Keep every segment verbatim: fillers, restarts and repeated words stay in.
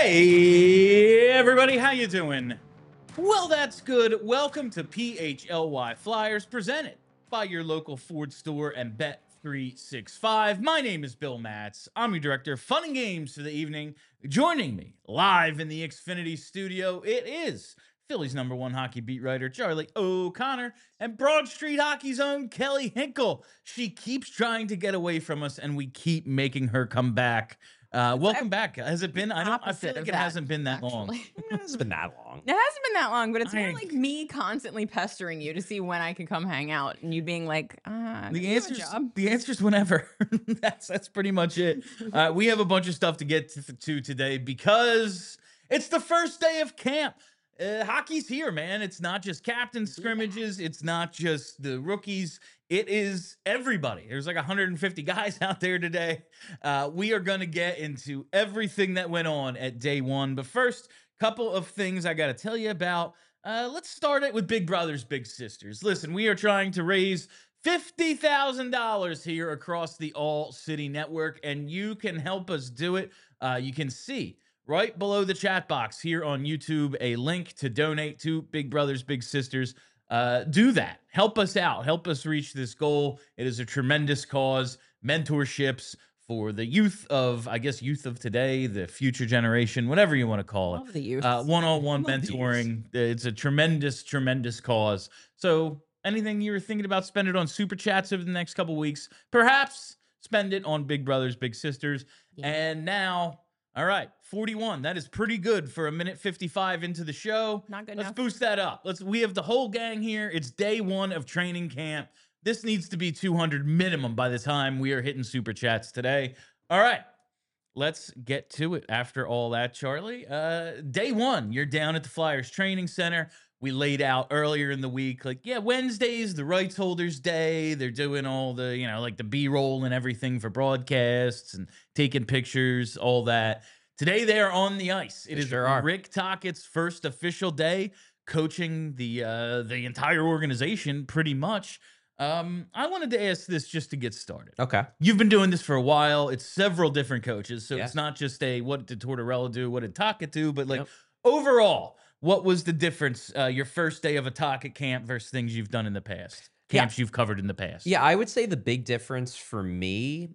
Hey everybody, how you doing? Well, that's good. Welcome to P H L Y Flyers, presented by your local Ford store and Bet three sixty-five. My name is Bill Matz. I'm your director of fun and games for the evening. Joining me live in the Xfinity studio, it is Philly's number one hockey beat writer, Charlie O'Connor, and Broad Street Hockey's own Kelly Hinkle. She keeps trying to get away from us, and we keep making her come back. Uh, welcome back. Has it been? I don't. I feel Opposite like of it that, hasn't been that long. actually. It hasn't been that long. It hasn't been that long, but it's more I- like me constantly pestering you to see when I can come hang out, and you being like, "Ah, The you have a answer's job." the answer's whenever. that's that's pretty much it. Uh, we have a bunch of stuff to get to, to today because it's the first day of camp. Uh, hockey's here, man. It's not just captain scrimmages. It's not just the rookies. It is everybody. There's like one hundred fifty guys out there today. Uh, we are going to get into everything that went on at day one. But first, couple of things I got to tell you about. Uh, let's start it with Big Brothers Big Sisters. Listen, we are trying to raise fifty thousand dollars here across the All City Network, and you can help us do it. Uh, you can see right below the chat box here on YouTube a link to donate to Big Brothers Big Sisters. Uh, do that. Help us out. Help us reach this goal. It is a tremendous cause. Mentorships for the youth of, I guess, youth of today, the future generation, whatever you want to call it. Love the youth. Uh, one-on-one Love the mentoring. It's a tremendous, tremendous cause. So anything you were thinking about, spend it on Super Chats over the next couple weeks. Perhaps spend it on Big Brothers Big Sisters. Yeah. And now, all right, forty-one. That is pretty good for a minute fifty-five into the show. Not good Let's enough. boost that up. Let's. We have the whole gang here. It's day one of training camp. This needs to be two hundred minimum by the time we are hitting Super Chats today. All right, let's get to it. After all that, Charlie, uh, day one, you're down at the Flyers Training Center. We laid out earlier in the week, like, yeah, Wednesday's the rights holders day. They're doing all the, you know, like the B-roll and everything for broadcasts and taking pictures, all that. Today they are on the ice. It They is sure are. Rick Tockett's first official day coaching the uh, the entire organization, pretty much. Um, I wanted to ask this just to get started. Okay. You've been doing this for a while. It's several different coaches, so Yeah. it's not just a what did Tortorella do, what did Tocchet do, but like Yep. overall, what was the difference? Uh, your first day of a Tocchet camp versus things you've done in the past, Yeah. camps you've covered in the past. Yeah, I would say the big difference for me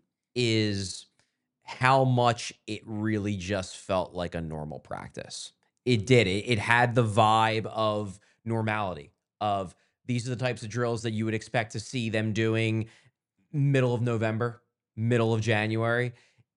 is how much it really just felt like a normal practice. It did. It, it had the vibe of normality, of these are the types of drills that you would expect to see them doing middle of November, middle of January.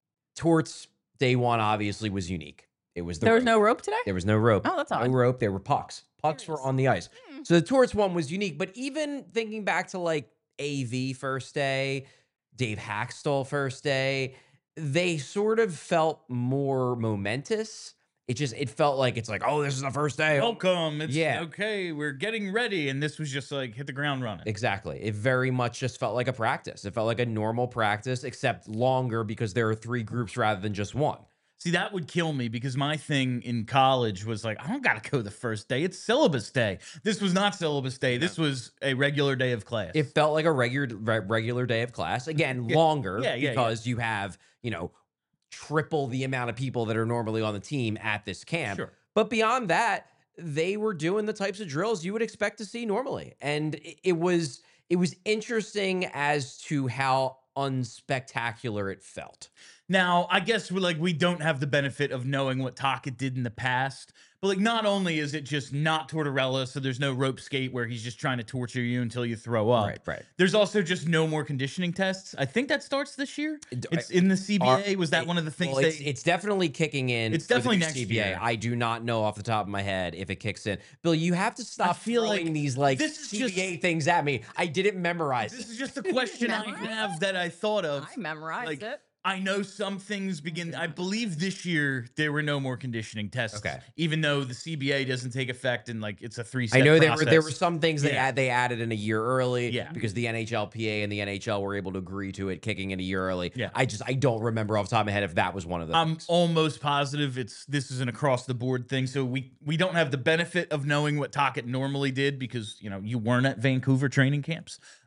Torts day one obviously was unique. It was the There was rope. no rope today? There was no rope. Oh, that's No odd. rope. There were pucks. Pucks were Curious. on the ice. Hmm. So the Torts one was unique. But even thinking back to like A V first day, Dave Haxtell first day, they sort of felt more momentous. It just, it felt like it's like, oh, this is the first day. Welcome. It's Yeah. okay. We're getting ready, and this was just like hit the ground running. Exactly. It very much just felt like a practice. It felt like a normal practice, except longer because there are three groups rather than just one. See, that would kill me because my thing in college was like, I don't got to go the first day. It's syllabus day. This was not syllabus day. This was a regular day of class. It felt like a regular re- regular day of class. Again, Yeah. longer Yeah, yeah, yeah. because you have, you know, triple the amount of people that are normally on the team at this camp. Sure. But beyond that, they were doing the types of drills you would expect to see normally. And it, it was it was interesting as to how unspectacular it felt. Now, I guess we're like we don't have the benefit of knowing what Tocchet did in the past, but like not only is it just not Tortorella, so there's no rope skate where he's just trying to torture you until you throw up. Right, right. There's also just no more conditioning tests. I think that starts this year. It- It's in the C B A. Are- Was that it- one of the things well, they? it's, it's definitely kicking in. It's with the definitely new next C B A. year. I do not know off the top of my head if it kicks in. Bill, you have to stop feel throwing like these like this is C B A just- things at me. I didn't memorize This it. is just a question I Memorize have that I thought of. I memorized like, it. I know some things begin. I believe this year there were no more conditioning tests. Okay. Even though the C B A doesn't take effect and like it's a three step I know there process. were there were some things they Yeah. add, they added in a year early Yeah. because the N H L P A and the N H L were able to agree to it kicking in a year early. Yeah. I just I don't remember off the top of my head if that was one of those. I'm things. almost positive it's this is an across the board thing. So we we don't have the benefit of knowing what Tocchet normally did because you know you weren't at Vancouver training camps.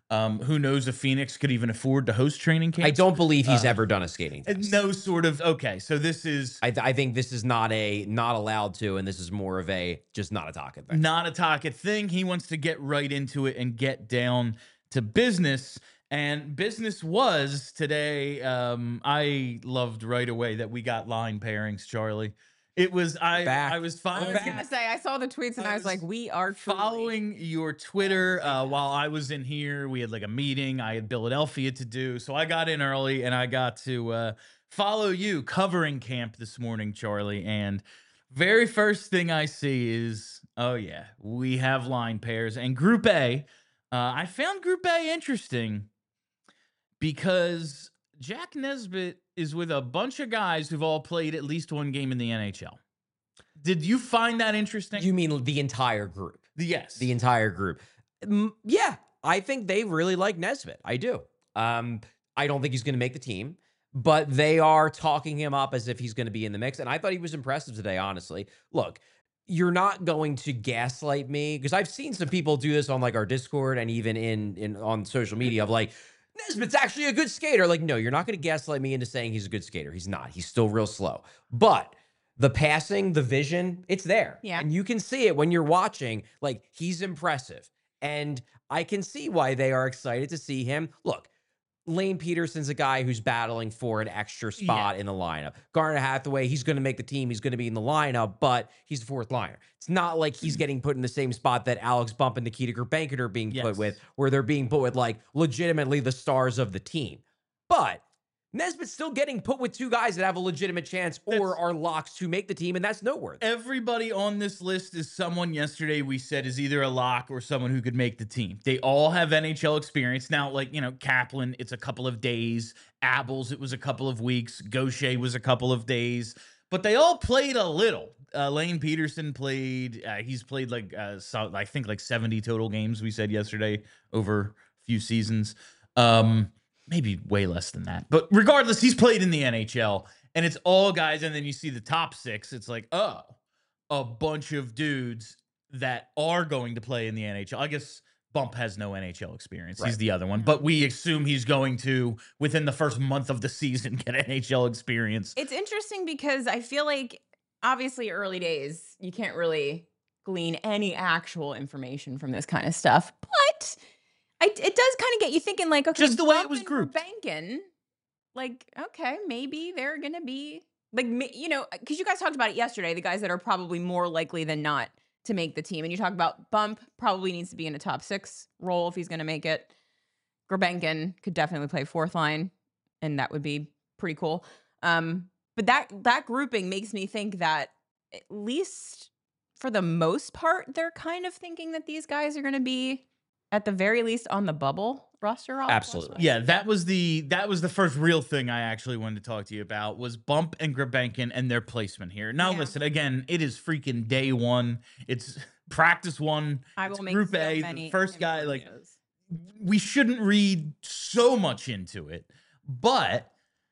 Um, who knows if Phoenix could even afford to host training camps? I don't believe he's Uh, ever done a skating Uh, test. No sort of okay. So this is I, th- I think this is not a not allowed to, and this is more of a just not a Taka thing. not a Taka thing. He wants to get right into it and get down to business. And business was today. Um, I loved right away that we got line pairings, Charlie. It was I. Back. I was I following. was gonna say I saw the tweets and I I was, was like, we are truly- following your Twitter uh, while I was in here. We had like a meeting. I had Philadelphia to do, so I got in early and I got to uh, follow you covering camp this morning, Charlie. And very first thing I see is, oh yeah, we have line pairs and Group A. Uh, I found Group A interesting because Jack Nesbitt is with a bunch of guys who've all played at least one game in the N H L. Did you find that interesting? You mean the entire group? yes. The entire group. Mm, yeah, I think they really like Nesbitt. I do. Um, I don't think he's going to make the team, but they are talking him up as if he's going to be in the mix. And I thought he was impressive today, honestly. Look, you're not going to gaslight me because I've seen some people do this on like our Discord and even in in on social media of like, Nesbitt's actually a good skater. Like, no, you're not going to gaslight me into saying he's a good skater. He's not. He's still real slow. But the passing, the vision, it's there. Yeah. And you can see it when you're watching. Like, he's impressive. And I can see why they are excited to see him. Look, Lane Peterson's a guy who's battling for an extra spot Yeah. in the lineup. Garner Hathaway, he's going to make the team. He's going to be in the lineup, but he's the fourth liner. It's not like he's getting put in the same spot that Alex Bump and Nikita Gurbankin are being Yes. put with, where they're being put with like legitimately the stars of the team. But Nesbitt's still getting put with two guys that have a legitimate chance or That's- are locks to make the team, and that's noteworthy. Everybody on this list is someone yesterday we said is either a lock or someone who could make the team. They all have N H L experience. Now, like, you know, Kaplan, it's a couple of days. Abels, it was a couple of weeks. Gaucher was a couple of days. But they all played a little. Uh, Lane Peterson played. Uh, he's played like, uh, so, I think like seventy total games, we said yesterday, over a few seasons. Um, maybe way less than that. But regardless, he's played in the N H L. And it's all guys, and then you see the top six. It's like, oh, a bunch of dudes that are going to play in the N H L. I guess Bump has no N H L experience. Right. He's the other one. But we assume he's going to, within the first month of the season, get N H L experience. It's interesting because I feel like obviously early days, you can't really glean any actual information from this kind of stuff. But I, it does kind of get you thinking like, okay, Just the way it Bump was and grouped. Bankin, like, okay, maybe they're going to be like, ma- you know, because you guys talked about it yesterday, the guys that are probably more likely than not to make the team. And you talk about Bump probably needs to be in a top six role if he's going to make it. Gurbankin could definitely play fourth line, and that would be pretty cool. Um, but that that grouping makes me think that at least for the most part, they're kind of thinking that these guys are going to be at the very least on the bubble roster. Absolutely. Yeah, that was the that was the first real thing I actually wanted to talk to you about was Bump and Gurbankin and their placement here. Now, Yeah. listen, again, it is freaking day one. It's practice one. I It's will make Group so A. many The first guy, Import like, videos. we shouldn't read so much into it, but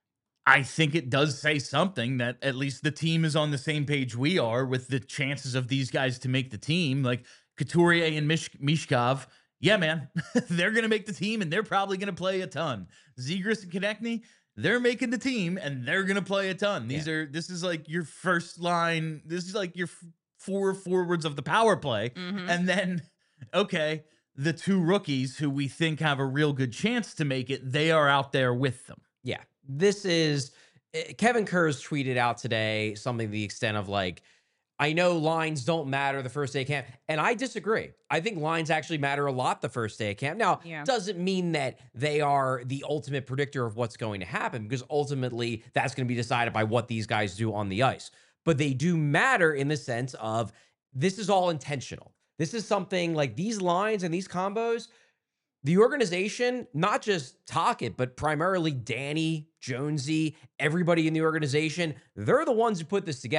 I think it does say something that at least the team is on the same page we are with the chances of these guys to make the team. Like Couturier and Mish- Mishkov, yeah, man, they're going to make the team and they're probably going to play a ton. Zegras and Konechny, they're making the team and they're going to play a ton. These are, this is like your first line. This is like your f- four forwards of the power play. Mhm. And then, okay, the two rookies who we think have a real good chance to make it, they are out there with them. Yeah, this is eh, Kevin Kurz tweeted out today something to the extent of like, I know lines don't matter the first day of camp, and I disagree. I think lines actually matter a lot the first day of camp. Now, Yeah. doesn't mean that they are the ultimate predictor of what's going to happen because ultimately that's going to be decided by what these guys do on the ice. But they do matter in the sense of this is all intentional. This is something like these lines and these combos. The organization, not just Tocchet, but primarily Danny, Jonesy, everybody in the organization, they're the ones who put this together.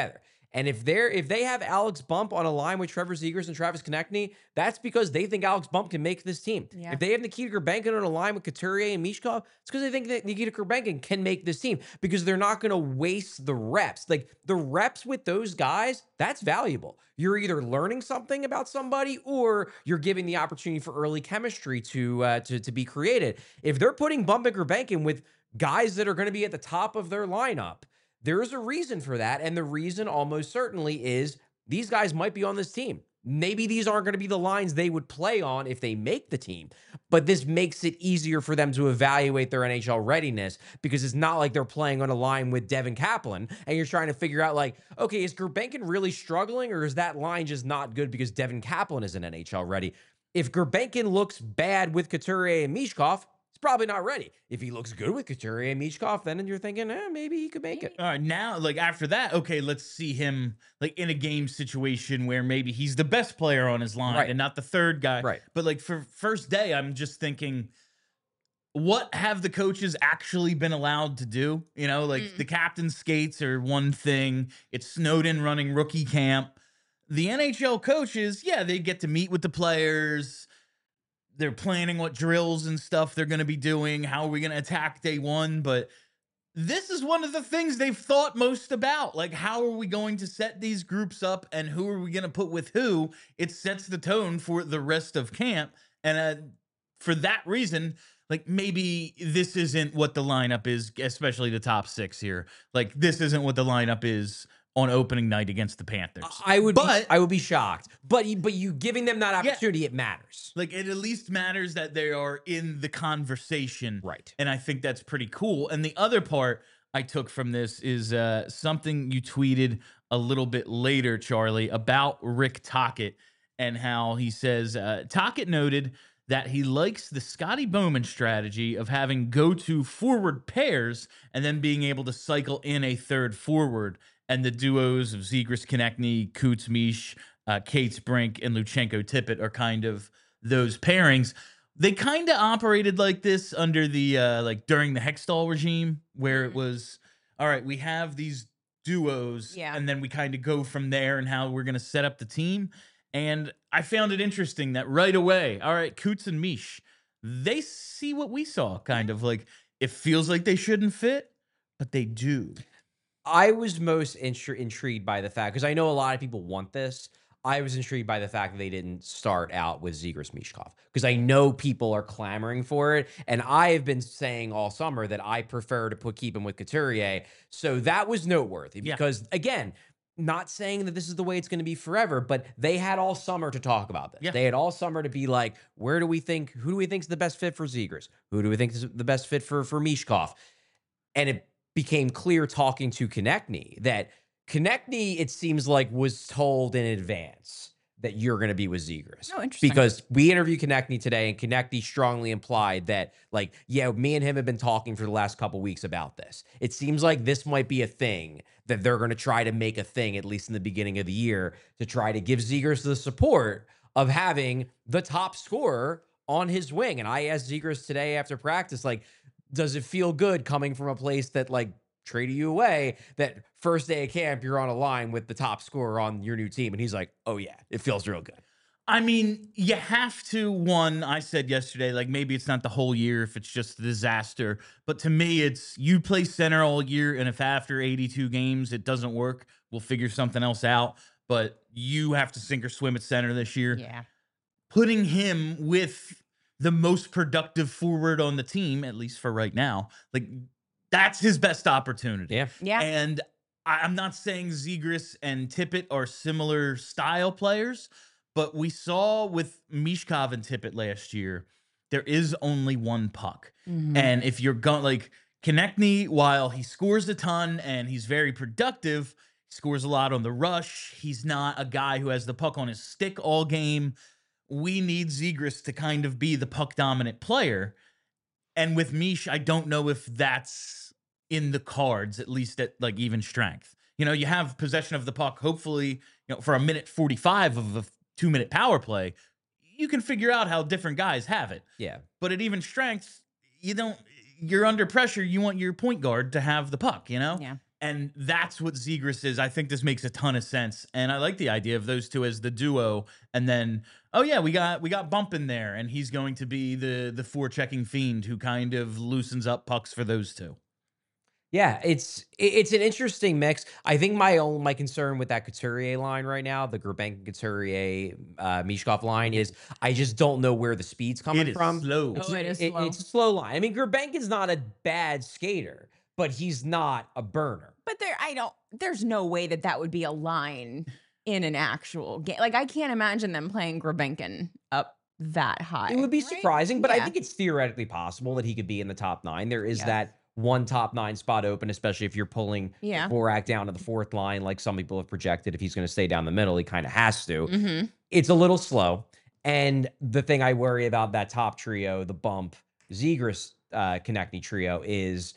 And if they're if they have Alex Bump on a line with Trevor Zegras and Travis Konechny, that's because they think Alex Bump can make this team. Yeah. If they have Nikita Kurbankin on a line with Couturier and Mishkov, it's because they think that Nikita Kurbankin can make this team because they're not going to waste the reps. Like the reps with those guys, that's valuable. You're either learning something about somebody or you're giving the opportunity for early chemistry to uh, to to be created. If they're putting Bump and Kurbankin with guys that are going to be at the top of their lineup, there is a reason for that. And the reason almost certainly is these guys might be on this team. Maybe these aren't going to be the lines they would play on if they make the team, but this makes it easier for them to evaluate their N H L readiness because it's not like they're playing on a line with Devin Kaplan and you're trying to figure out like, okay, is Gurbankin really struggling or is that line just not good because Devin Kaplan isn't N H L ready? If Gurbankin looks bad with Couturier and Mishkov, he's probably not ready. If he looks good with Couturier and Mishkov, then you're thinking, eh, maybe he could make it. All right, now, like after that, okay, let's see him like in a game situation where maybe he's the best player on his line Right. and not the third guy. Right. But like for first day, I'm just thinking, what have the coaches actually been allowed to do? You know, like Mm. the captain skates are one thing. It's Snowden running rookie camp. The N H L coaches, yeah, they get to meet with the players. They're planning what drills and stuff they're going to be doing. How are we going to attack day one? But this is one of the things they've thought most about. Like, how are we going to set these groups up and who are we going to put with who? It sets the tone for the rest of camp. And uh, for that reason, like maybe this isn't what the lineup is, especially the top six here. Like, this isn't what the lineup is on opening night against the Panthers. I would, but be, I would be shocked. But you, but you giving them that opportunity, it matters. like it at least matters that they are in the conversation, Right. and I think that's pretty cool. And the other part I took from this is uh, something you tweeted a little bit later, Charlie, about Rick Tocchet and how he says uh, Tocchet noted that he likes the Scotty Bowman strategy of having go-to forward pairs and then being able to cycle in a third forward. And the duos of Zegras, Konechny, Coots, Mish, uh, Cates, Brink, and Luchenko Tippett are kind of those pairings. They kind of operated like this under the uh, like during the Hextall regime, where it was all right. We have these duos, Yeah. and then we kind of go from there and how we're going to set up the team. And I found it interesting that right away, all right, Coots and Mish, they see what we saw, kind of like it feels like they shouldn't fit, but they do. I was most intri- intrigued by the fact, because I know a lot of people want this. I was intrigued by the fact that they didn't start out with Zegras Mishkov, because I know people are clamoring for it. And I have been saying all summer that I prefer to put keep him with Couturier. So that was noteworthy Yeah. because, again, not saying that this is the way it's going to be forever, but they had all summer to talk about this. Yeah. They had all summer to be like, where do we think, who do we think is the best fit for Zegras? Who do we think is the best fit for, for Mishkov? And it became clear talking to Konechny that Konechny, it seems like, was told in advance that you're going to be with Zegras. Oh, interesting. Because we interviewed Konechny today, and Konechny strongly implied that, like, yeah, me and him have been talking for the last couple weeks about this. It seems like this might be a thing that they're going to try to make a thing, at least in the beginning of the year, to try to give Zegras the support of having the top scorer on his wing. And I asked Zegras today after practice, like, does it feel good coming from a place that like traded you away, that first day of camp, you're on a line with the top scorer on your new team? And he's like, oh yeah, it feels real good. I mean, you have to, one, I said yesterday, like maybe it's not the whole year if it's just a disaster. But to me, it's you play center all year. And if after eighty-two games it doesn't work, we'll figure something else out. But you have to sink or swim at center this year. Yeah. Putting him with the most productive forward on the team, at least for right now, like that's his best opportunity. Yeah. Yeah. And I, I'm not saying Zegras and Tippett are similar style players, but we saw with Mishkov and Tippett last year, there is only one puck. Mhm. And if you're going like Konechny, while he scores a ton and he's very productive, he scores a lot on the rush. He's not a guy who has the puck on his stick all game. We need Zegras to kind of be the puck dominant player. And with Mish, I don't know if that's in the cards, at least at like even strength. You know, you have possession of the puck, hopefully, you know, for a minute forty-five of a two minute power play, you can figure out how different guys have it. Yeah. But at even strength, you don't, you're under pressure. You want your point guard to have the puck, you know? Yeah. And that's what Zegras is. I think this makes a ton of sense. And I like the idea of those two as the duo. And then, oh yeah, we got we got Bump in there, and he's going to be the the forechecking fiend who kind of loosens up pucks for those two. Yeah, it's it- it's an interesting mix. I think my own my concern with that Couturier line right now, the Gurbank Couturier uh, Mishkov line, is I just don't know where the speed's coming It is from. slow. It's, Oh, it is it- slow. it's a slow line. I mean, Gurbank is not a bad skater, but he's not a burner. But there, I don't. There's no way that that would be a line in an actual game. Like I can't imagine them playing Grabenkin up that high. It would be right? surprising, but I Yeah. think it's theoretically possible that he could be in the top nine. There is Yes. that one top nine spot open, especially if you're pulling Yeah. Dvorak down to the fourth line, like some people have projected. If he's going to stay down the middle, he kind of has to. Mm-hmm. It's a little slow. And the thing I worry about that top trio, the Bump, Zegras, uh, Konechny trio, is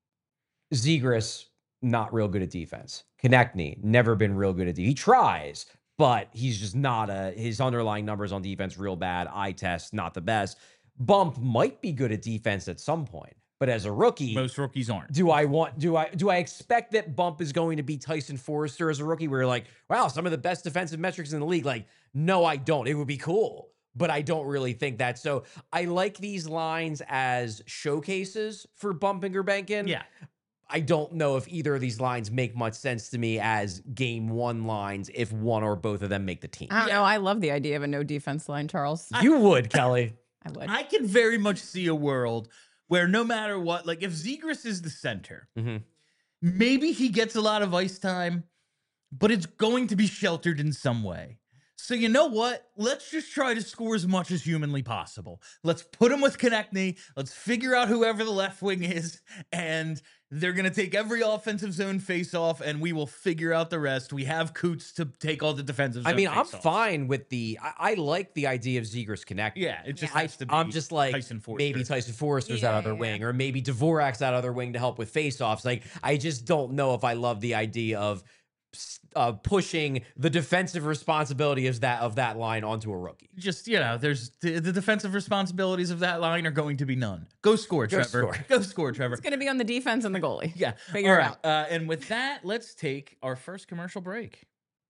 Zegras not real good at defense. Konechny never been real good at defense. He tries, but he's just not a. His underlying numbers on defense real bad. Eye test not the best. Bump might be good at defense at some point, but as a rookie, Most rookies aren't. do I want do I do I expect that Bump is going to be Tyson Forrester as a rookie? Where you're like, wow, some of the best defensive metrics in the league. Like, no, I don't. It would be cool, but I don't really think that. So I like these lines as showcases for Bump and Gurbankin. Yeah. I don't know if either of these lines make much sense to me as game one lines if one or both of them make the team. I don't know. I love the idea of a no defense line, Charles. You would, Kelly. I would. I can very much see a world where no matter what, like if Zegras is the center, Mhm. maybe he gets a lot of ice time, but it's going to be sheltered in some way. So you know what? Let's just try to score as much as humanly possible. Let's put him with Konechny. Let's figure out whoever the left wing is, and they're going to take every offensive zone face off, and we will figure out the rest. We have Coots to take all the defensive zone I mean, I'm face-offs. fine with the. I, I like the idea of Zegras Konechny. Yeah, it just I, has to be I'm just like Tyson Forster. maybe Tyson Forster's Yeah, that other yeah, wing, or maybe Dvorak's that other wing to help with faceoffs. Like, I just don't know if I love the idea of uh, pushing the defensive responsibility of that of that line onto a rookie. Just, you know, there's the, the defensive responsibilities of that line are going to be none. Go score, Go Trevor. score. Go score, Trevor. It's going to be on the defense and the goalie. Yeah. Figure All it right. out. Uh, and with that, let's take our first commercial break.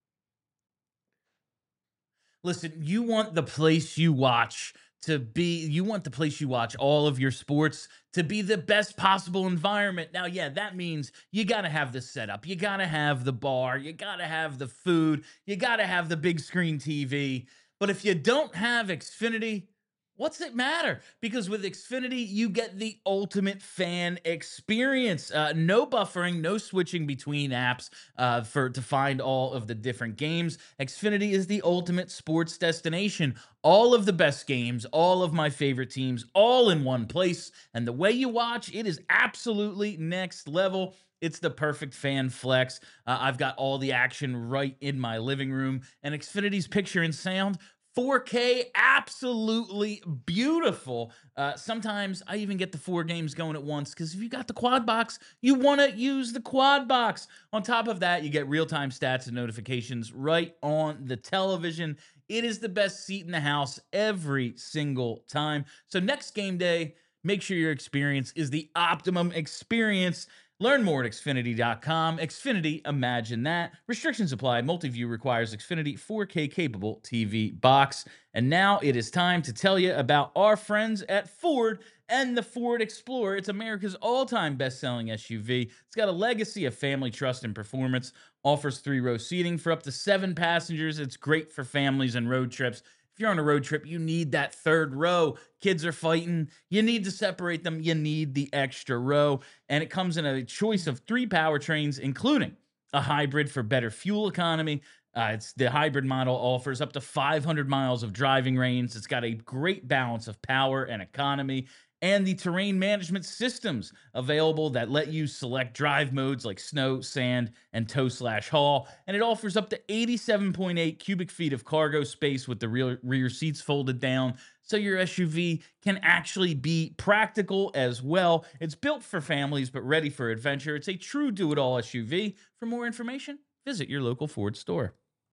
Listen, you want the place you watch to be, you want the place you watch all of your sports to be the best possible environment. Now, yeah, that means you got to have the setup. You got to have the bar. You got to have the food. You got to have the big screen T V. But if you don't have Xfinity, what's it matter? Because with Xfinity, you get the ultimate fan experience. Uh, no buffering, no switching between apps uh, for to find all of the different games. Xfinity is the ultimate sports destination. All of the best games, all of my favorite teams, all in one place. And the way you watch, it is absolutely next level. It's the perfect fan flex. Uh, I've got all the action right in my living room. And Xfinity's picture and sound, four K, absolutely beautiful. Uh, sometimes I even get the four games going at once because if you got the quad box, you want to use the quad box. On top of that, you get real-time stats and notifications right on the television. It is the best seat in the house every single time. So next game day, make sure your experience is the optimum experience. Learn more at Xfinity dot com. Xfinity, imagine that. Restrictions apply. Multi-view requires Xfinity four K capable T V box. And now it is time to tell you about our friends at Ford and the Ford Explorer. It's America's all-time best-selling S U V. It's got a legacy of family trust and performance. Offers three-row seating for up to seven passengers. It's great for families and road trips. If you're on a road trip, you need that third row. Kids are fighting. You need to separate them. You need the extra row. And it comes in a choice of three powertrains, including a hybrid for better fuel economy. Uh, it's the hybrid model offers up to five hundred miles of driving range. It's got a great balance of power and economy. And the terrain management systems available that let you select drive modes like snow, sand, and tow slash haul. And it offers up to eighty-seven point eight cubic feet of cargo space with the rear, rear seats folded down. So your S U V can actually be practical as well. It's built for families, but ready for adventure. It's a true do-it-all S U V. For more information, visit your local Ford store.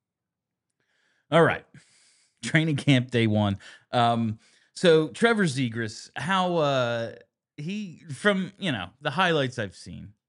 All right. Training camp day one. Um, So Trevor Zegras, how uh, he from you know the highlights I've seen,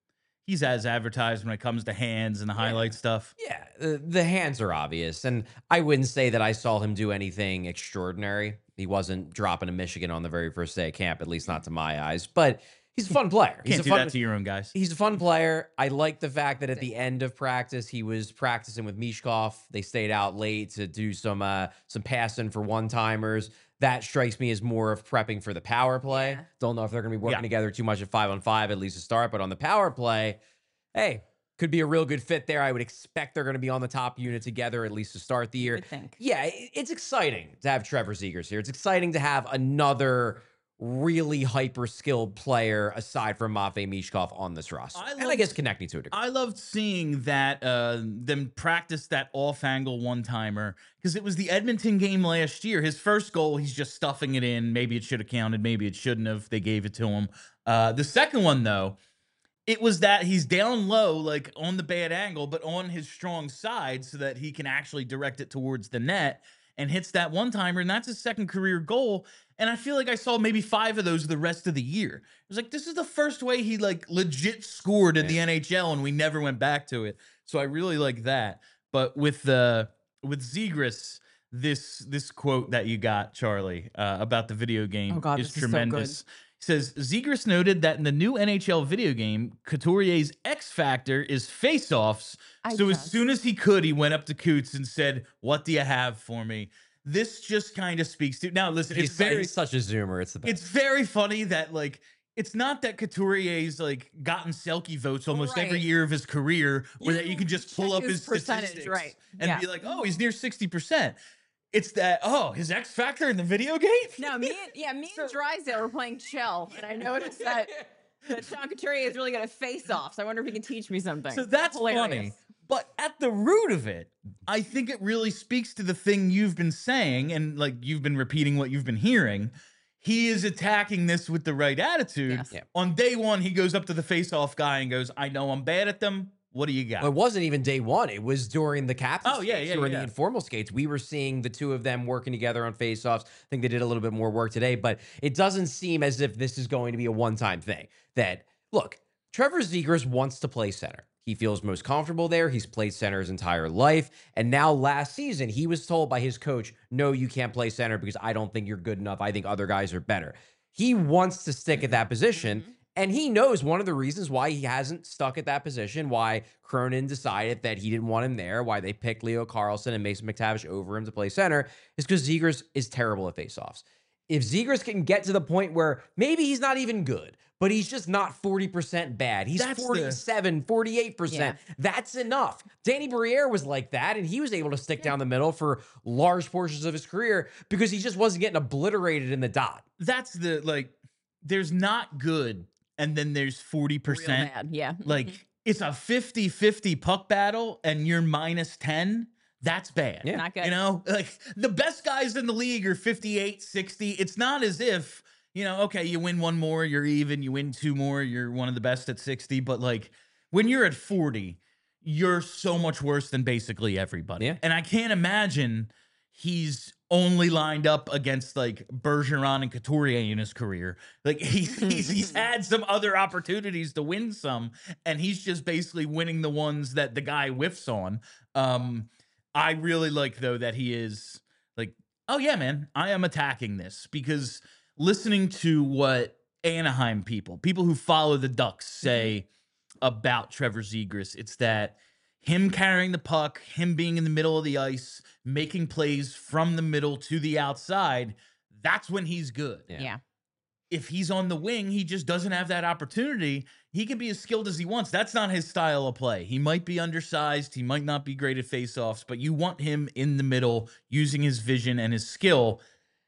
he's as advertised when it comes to hands and the highlight stuff. Yeah, the, the hands are obvious, and I wouldn't say that I saw him do anything extraordinary. He wasn't dropping a Michigan on the very first day of camp, at least not to my eyes. But he's a fun player. He's Can't a do fun, that to your own guys. He's a fun player. I like the fact that at the end of practice, he was practicing with Mishkov. They stayed out late to do some uh, some passing for one timers. That strikes me as more of prepping for the power play. Yeah. Don't know if they're going to be working Yeah. together too much at five on five, at least to start. But on the power play, hey, could be a real good fit there. I would expect they're going to be on the top unit together, at least to start the year. would think. Yeah, it- it's exciting to have Trevor Zegers here. It's exciting to have another really hyper skilled player aside from Matvei Mishkov on this roster. I and I loved- guess connecting to a degree. I loved seeing that uh, them practice that off angle one timer because it was the Edmonton game last year. His first goal, he's just stuffing it in. Maybe it should have counted. Maybe it shouldn't have. They gave it to him. Uh, the second one, though, it was that he's down low, like on the bad angle, but on his strong side so that he can actually direct it towards the net and hits that one timer. And that's his second career goal. And I feel like I saw maybe five of those the rest of the year. It was like, this is the first way he like legit scored in the N H L and we never went back to it. So I really like that. But with the, with Zegras, this, this quote that you got, Charlie, uh, about the video game Oh God, is this is so tremendous. He says, Zegras noted that in the new N H L video game, Couturier's X factor is face-offs. I So as just- soon as he could, he went up to Coots and said, what do you have for me? This just kind of speaks to, now listen, He's, it's very, he's such a zoomer. It's the best. it's very funny that like, it's not that Couturier's like gotten Selke votes almost every Right. year of his career, or that you You can just pull check up his his percentage, statistics right. and Yeah. be like, oh, he's near sixty percent. It's that, oh, his X factor in the video game? No, me and yeah, me and Drysdale were playing Shell, and I noticed that, that Sean Couturier is really good at face-offs. I wonder if he can teach me something. So that's Hilarious. funny. But at the root of it, I think it really speaks to the thing you've been saying, and like you've been repeating what you've been hearing. He is attacking this with the right attitude. Yes. Yeah. On day one, he goes up to the face-off guy and goes, I know I'm bad at them. What do you got? Well, it wasn't even day one. It was during the captain. Oh, yeah, skates, yeah, during yeah. the informal skates. We were seeing the two of them working together on faceoffs. I think they did a little bit more work today, but it doesn't seem as if this is going to be a one-time thing. That look, Trevor Zegras wants to play center. He feels most comfortable there. He's played center his entire life. And now last season, he was told by his coach, no, you can't play center because I don't think you're good enough. I think other guys are better. He wants to stick at that position. Mhm. And he knows one of the reasons why he hasn't stuck at that position, why Cronin decided that he didn't want him there, why they picked Leo Carlson and Mason McTavish over him to play center, is because Zegras is terrible at faceoffs. If Zegras can get to the point where maybe he's not even good, but he's just not forty percent bad. He's That's the- forty-seven, forty-eight percent. That's enough. Danny Briere was like that, and he was able to stick down the middle for large portions of his career because he just wasn't getting obliterated in the dot. That's the, like, there's not good, and then there's forty Real percent. bad, yeah. Like, it's a fifty fifty puck battle, and you're minus ten. That's bad. Yeah. Not good. You know, like the best guys in the league are fifty-eight, sixty. It's not as if, you know, okay, you win one more, you're even, you win two more, you're one of the best at sixty. But like when you're at forty, you're so much worse than basically everybody. Yeah. And I can't imagine he's only lined up against like Bergeron and Couturier in his career. Like he's, he's he's had some other opportunities to win some, and he's just basically winning the ones that the guy whiffs on. Um, I really like though that he is like, oh yeah, man, I am attacking this, because listening to what Anaheim people, people who follow the Ducks say about Trevor Zegras, it's that him carrying the puck, him being in the middle of the ice, making plays from the middle to the outside, that's when he's good. Yeah. Yeah. If he's on the wing, he just doesn't have that opportunity. He can be as skilled as he wants. That's not his style of play. He might be undersized. He might not be great at faceoffs, but you want him in the middle using his vision and his skill.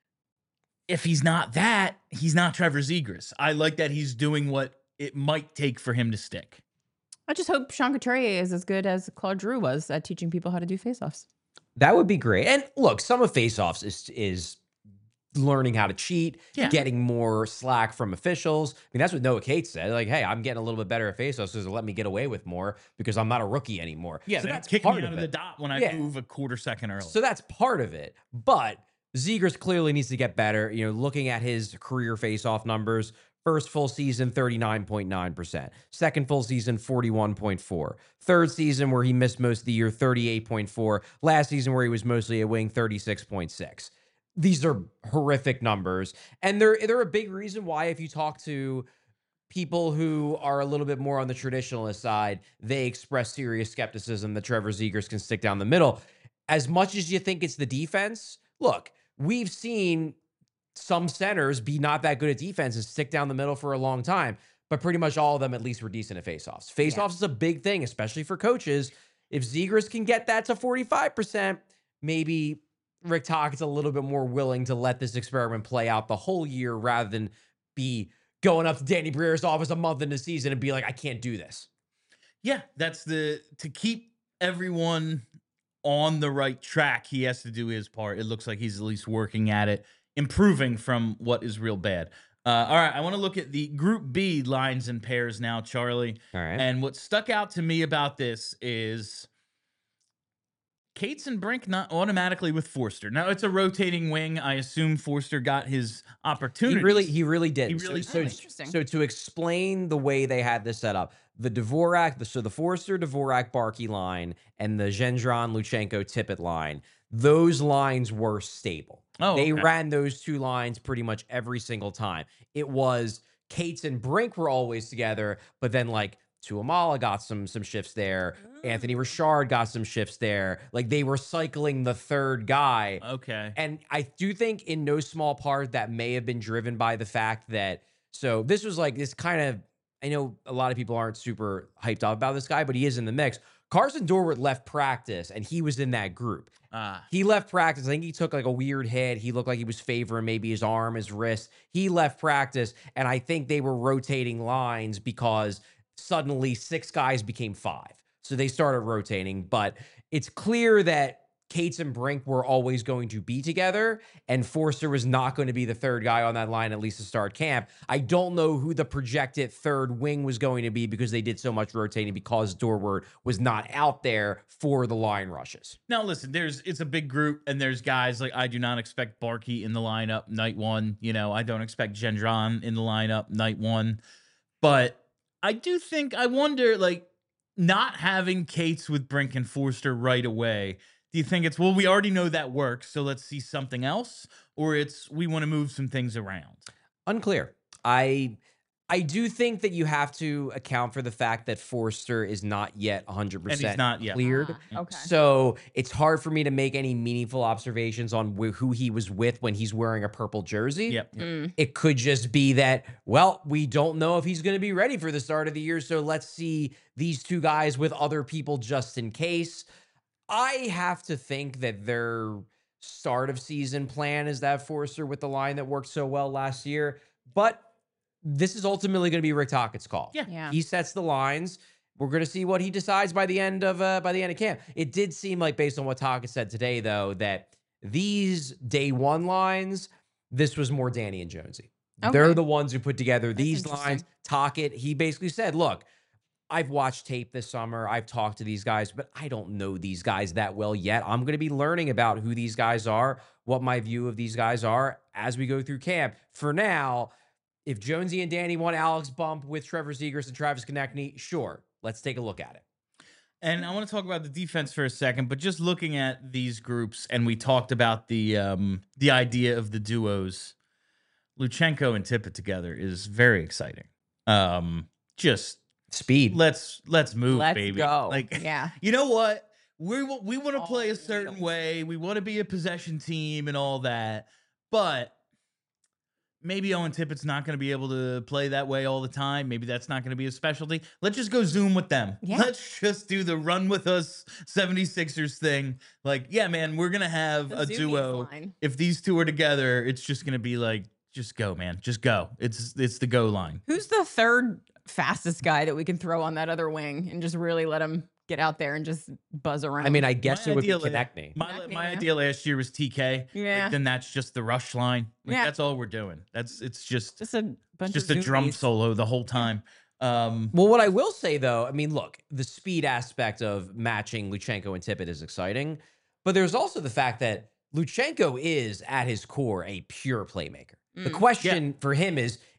If he's not that, he's not Trevor Zegras. I like that he's doing what it might take for him to stick. I just hope Sean Couturier is as good as Claude Giroux was at teaching people how to do faceoffs. That would be great. And look, some of faceoffs is is learning how to cheat, Yeah. getting more slack from officials. I mean, that's what Noah Cates said. Like, hey, I'm getting a little bit better at faceoffs, so let me get away with more because I'm not a rookie anymore. Yeah, so so that's kick part me out of of the it. dot when I Yeah. move a quarter second early. So that's part of it. But Zegras clearly needs to get better. You know, looking at his career faceoff numbers, First full season, thirty-nine point nine percent. Second full season, forty-one point four. Third season, where he missed most of the year, thirty-eight point four. Last season, where he was mostly a wing, thirty-six point six. These are horrific numbers. And they're, they're a big reason why, if you talk to people who are a little bit more on the traditionalist side, they express serious skepticism that Trevor Zegras can stick down the middle. As much as you think it's the defense, look, we've seen some centers be not that good at defense and stick down the middle for a long time, but pretty much all of them at least were decent at faceoffs. Faceoffs yeah. is a big thing, especially for coaches. If Zegras can get that to forty-five percent, maybe Rick Tockett's a little bit more willing to let this experiment play out the whole year rather than be going up to Danny Breer's office a month into the season and be like, I can't do this. Yeah, that's the, to keep everyone on the right track, he has to do his part. It looks like he's at least working at it, improving from what is real bad. Uh, all right, I want to look at the Group B lines and pairs now, Charlie. All right. And what stuck out to me about this is Cates and Brink not automatically with Forster. Now, it's a rotating wing. I assume Forster got his opportunity. He really, he really did. He really so, did. So, Interesting. so to explain the way they had this set up, the Dvorak, the, so the Forster, Dvorak, Barkey line, and the Gendron, Luchenko, Tippett line, those lines were stable. Oh, they okay. ran those two lines pretty much every single time. It was Cates and Brink were always together, but then like Tuamala got some some shifts there. Anthony Richard got some shifts there. Like they were cycling the third guy. Okay. And I do think in no small part that may have been driven by the fact that, so this was like this kind of, I know a lot of people aren't super hyped up about this guy, but he is in the mix. Carson Dorwart left practice and he was in that group. Ah. He left practice. I think he took like a weird hit. He looked like he was favoring maybe his arm, his wrist. He left practice. And I think they were rotating lines because suddenly six guys became five. So they started rotating, but it's clear that Cates and Brink were always going to be together, and Forster was not going to be the third guy on that line, at least to start camp. I don't know who the projected third wing was going to be because they did so much rotating because Dorwart was not out there for the line rushes. Now, listen, there's it's a big group, and there's guys like I do not expect Barkey in the lineup night one. You know, I don't expect Gendron in the lineup night one. But I do think, I wonder, like, not having Cates with Brink and Forster right away, do you think it's, well, we already know that works, so let's see something else? Or it's, we want to move some things around? Unclear. I I do think that you have to account for the fact that Forster is not yet one hundred percent And he's not yet. cleared. Ah, okay. So it's hard for me to make any meaningful observations on wh- who he was with when he's wearing a purple jersey. Yep. yep. Mm. It could just be that, well, we don't know if he's going to be ready for the start of the year, so let's see these two guys with other people just in case. I have to think that their start of season plan is that Forster with the line that worked so well last year, but this is ultimately going to be Rick Tockett's call. Yeah. Yeah. He sets the lines. We're going to see what he decides by the end of uh, by the end of camp. It did seem like, based on what Tockett said today, though, that these day one lines, this was more Danny and Jonesy. Okay. They're the ones who put together That's these interesting. lines. Tockett, he basically said, look, I've watched tape this summer. I've talked to these guys, but I don't know these guys that well yet. I'm going to be learning about who these guys are, what my view of these guys are as we go through camp. For now, if Jonesy and Danny want Alex Bump with Trevor Zegras and Travis Konechny, sure, let's take a look at it. And I want to talk about the defense for a second, but just looking at these groups, and we talked about the um, the idea of the duos, Luchenko and Tippett together is very exciting. Um, just Speed. let's let's move, Let's baby. go. Like, Yeah. you know what? We wa- we want to play Oh, a certain wheels. way. We want to be a possession team and all that, but maybe Owen Tippett's not going to be able to play that way all the time. Maybe that's not going to be a specialty. Let's just go Zoom with them. Yeah. Let's just do the run with us seventy-sixers thing. Like, yeah, man, we're going to have The a Zoomies duo. line. If these two are together, it's just going to be like, just go, man. Just go. It's it's the go line. Who's the third fastest guy that we can throw on that other wing and just really let him get out there and just buzz around? I mean, I guess My it would be idea- Konechny. My, Konechny, my yeah. idea last year was T K. Yeah. Like, then that's just the rush line. Like, Yeah. That's all we're doing. That's it's just just a bunch just of a drum zoomies. solo the whole time. Um, Well, what I will say, though, I mean, look, the speed aspect of matching Luchenko and Tippett is exciting, but there's also the fact that Luchenko is, at his core, a pure playmaker. The Mm. question for him is,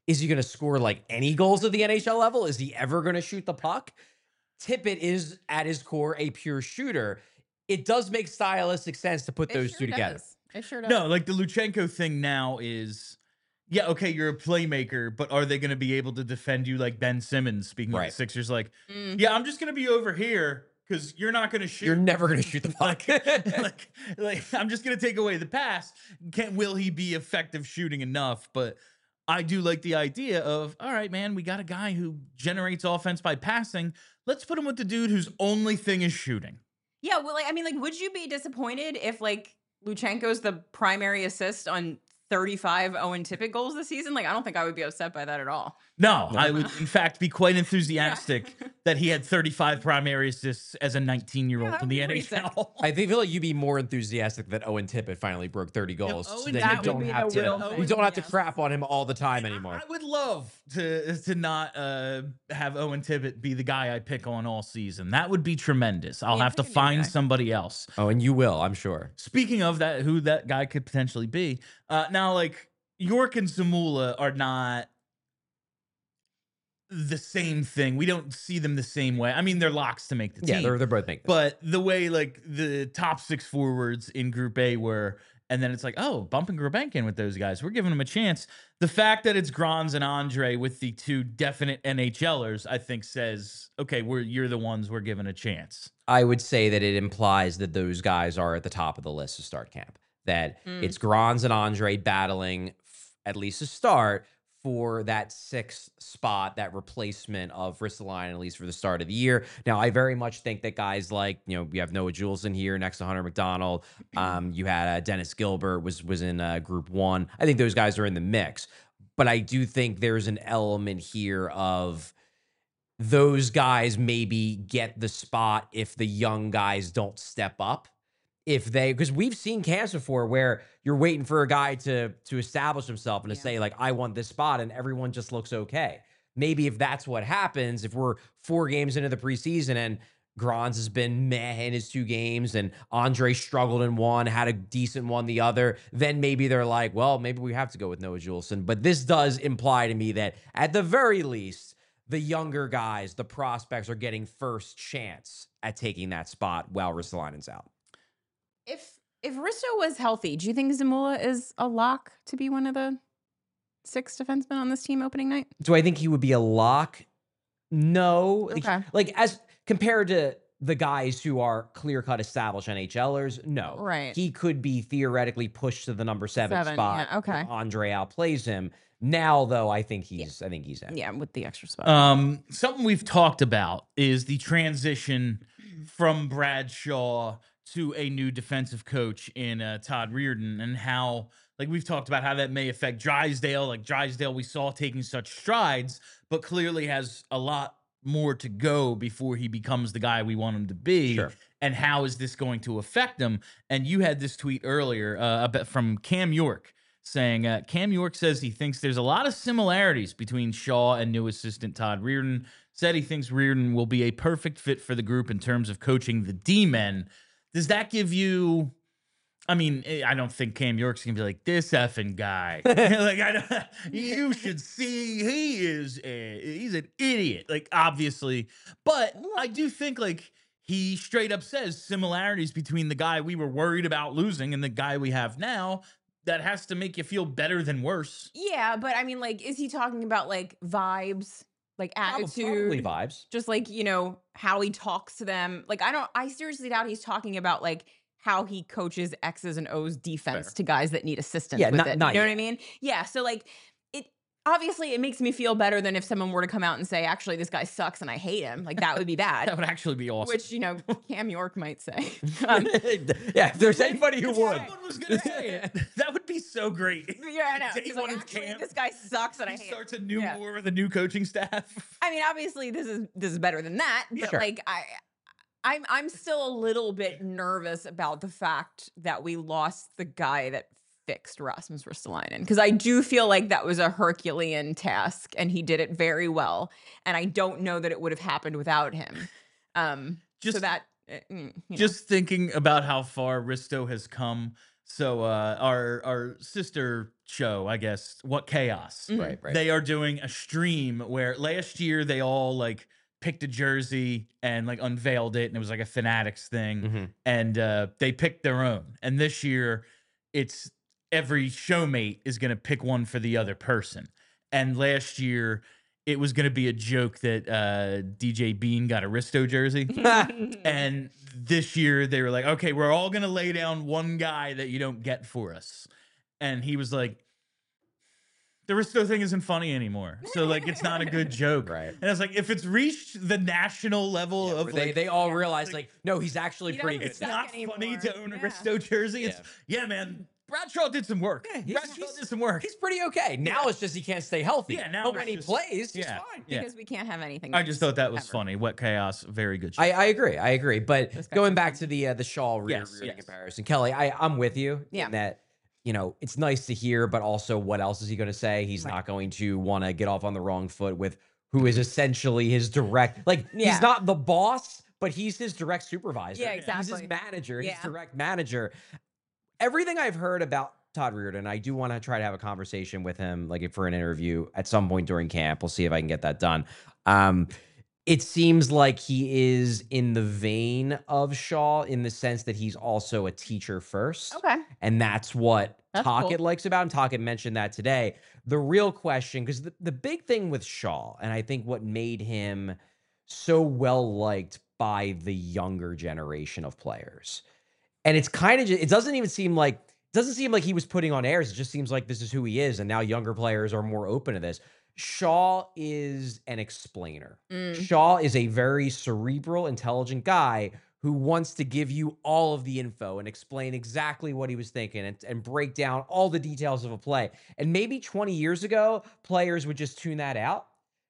Is he going to score like any goals at the N H L level? Is he ever going to shoot the puck? Tippett is at his core a pure shooter. It does make stylistic sense to put It those sure two together. does. It sure does. No, like the Luchenko thing now is, yeah, okay, you're a playmaker, but are they going to be able to defend you like Ben Simmons? Speaking of Right. the Sixers, like, Mm. yeah, I'm just going to be over here because you're not going to shoot. You're never going to shoot the puck. like, like, I'm just going to take away the pass. Can will he be effective shooting enough? But I do like the idea of, all right, man, we got a guy who generates offense by passing. Let's put him with the dude whose only thing is shooting. Yeah, well, like I mean, like, would you be disappointed if like Luchenko's the primary assist on thirty-five Owen Tippett goals this season? Like, I don't think I would be upset by that at all. No, No. I would, in fact, be quite enthusiastic that he had thirty-five primary assists as a nineteen-year-old Yeah, that in the would be N H L. I think feel like you'd be more enthusiastic that Owen Tippett finally broke thirty goals. Owen so then That you would don't be have the to real you thing, don't have to yes. crap on him all the time anymore. I would love to to not uh, have Owen Tippett be the guy I pick on all season. That would be tremendous. I'll Yeah, have to pick a new find guy. somebody else. Oh, and you will, I'm sure. Speaking of that, who that guy could potentially be. Uh, now, like, York and Zamula are not the same thing. We don't see them the same way. I mean, they're locks to make the Yeah, team. they're they're both making. But the way like the top six forwards in Group A were, and then it's like, oh, bumping Gurbankin with those guys. We're giving them a chance. The fact that it's Grans and Andre with the two definite NHLers, I think says, okay, we're you're the ones we're giving a chance. I would say that it implies that those guys are at the top of the list to start camp. That Mm. it's Grans and Andre battling, f- at least to start, for that sixth spot, that replacement of Ristolainen, at least for the start of the year. Now, I very much think that guys like, you know, we have Noah Jules in here next to Hunter McDonald. Um, you had uh, Dennis Gilbert was was in uh, Group One. I think those guys are in the mix. But I do think there's an element here of those guys maybe get the spot if the young guys don't step up. If they, because we've seen camps before where you're waiting for a guy to to establish himself and to Yeah. say like, I want this spot, and everyone just looks okay. Maybe if that's what happens, if we're four games into the preseason and Grans has been meh in his two games and Andre struggled in one, had a decent one the other, then maybe they're like, well, maybe we have to go with Noah Juleson. But this does imply to me that at the very least, the younger guys, the prospects, are getting first chance at taking that spot while Ristolainen's out. If if Risto was healthy, do you think Zamula is a lock to be one of the six defensemen on this team opening night? Do I think he would be a lock? No. Like- Okay. Like, as compared to the guys who are clear-cut established NHLers, no. Right. He could be theoretically pushed to the number seven, Seven, spot. yeah, okay. if Andre outplays him. Now, though, I think he's I think he's in. Yeah, with the extra spot. Um, something we've talked about is the transition from Bradshaw to a new defensive coach in uh, Todd Reardon, and how, like, we've talked about how that may affect Drysdale. Like, Drysdale, we saw taking such strides, but clearly has a lot more to go before he becomes the guy we want him to be. Sure. And how is this going to affect him? And you had this tweet earlier uh, about, from Cam York, saying uh, Cam York says he thinks there's a lot of similarities between Shaw and new assistant Todd Reardon. Said he thinks Reardon will be a perfect fit for the group in terms of coaching the D-men. Does that give you? I mean, eh, I don't think Cam York's gonna be like this effing guy. Like, I don't, you should see he is a, he's an idiot. Like, obviously, but I do think like he straight up says similarities between the guy we were worried about losing and the guy we have now. That has to make you feel better than worse. Yeah, but I mean, like, is he talking about like vibes, like Prob- attitude, Probably vibes. just like, you know, how he talks to them? Like, I don't, I seriously doubt he's talking about like how he coaches X's and O's defense Fair. to guys that need assistance Yeah, with not- it. not you know what yet. I mean? Yeah. So like, it obviously it makes me feel better than if someone were to come out and say, actually, this guy sucks and I hate him. Like, that would be That bad. would actually be awesome. Which, you know, Cam York might say. Um, Yeah, if there's anybody who If would. someone was gonna say it, that would be so great. yeah, I know. Day He's one like, of actually, camp. this guy sucks and I He hate him. starts a new Yeah. war with a new coaching staff. I mean, obviously this is this is better than that, but Sure. like I I'm I'm still a little bit nervous about the fact that we lost the guy that fixed Rasmus Ristolainen, because I do feel like that was a Herculean task and he did it very well, and I don't know that it would have happened without him. Um so Just- that uh, mm, you know. Just thinking about how far Risto has come So uh, our our sister show, I guess, What Chaos. Mhm. Right, right. They are doing a stream where last year they all like picked a jersey and like unveiled it, and it was like a Fanatics thing, Mhm. and uh, they picked their own. And this year, it's every showmate is gonna pick one for the other person. And last year, it was gonna be a joke that uh, D J Bean got a Risto jersey. And this year they were like, okay, we're all gonna lay down one guy that you don't get for us. And he was like, the Risto thing isn't funny anymore. So like it's not a good joke. Right. And I was like, if it's reached the national level of they like, they all Yeah. realize Like, like, no, he's actually he pretty doesn't good. it's suck not funny anymore. to own a Yeah. Risto jersey. It's yeah, man. Bradshaw did some work. Yeah, he's- Bradshaw he's- did some work. He's pretty okay. Now it's just he can't stay healthy. Yeah, now but when it's he just- plays, he's yeah. fine. Yeah. Because we can't have anything. I just thought that was ever. funny. Wet Chaos, very good show. I, I agree. I agree. But Those guys going are back fun. to the uh, the Shaw rear, Yes, rear yes. comparison, Kelly, I I'm with you Yeah. in that. You know, it's nice to hear, but also, what else is he going to say? He's Right. not going to want to get off on the wrong foot with who is essentially his direct. Like Yeah. he's not the boss, but he's his direct supervisor. Yeah, He's exactly. his manager. His Yeah. direct manager. Everything I've heard about Todd Reardon, I do want to try to have a conversation with him, like for an interview at some point during camp. We'll see if I can get that done. Um, it seems like he is in the vein of Shaw in the sense that he's also a teacher first. Okay. And that's what That's Tockett cool. likes about him. Tockett mentioned that today. The real question, because the, the big thing with Shaw, and I think what made him so well liked by the younger generation of players, and it's kind of, it doesn't even seem like, it doesn't seem like he was putting on airs. It just seems like this is who he is. And now younger players are more open to this. Shaw is an explainer. Mm. Shaw is a very cerebral, intelligent guy who wants to give you all of the info and explain exactly what he was thinking and, and break down all the details of a play. And maybe twenty years ago, players would just tune that out.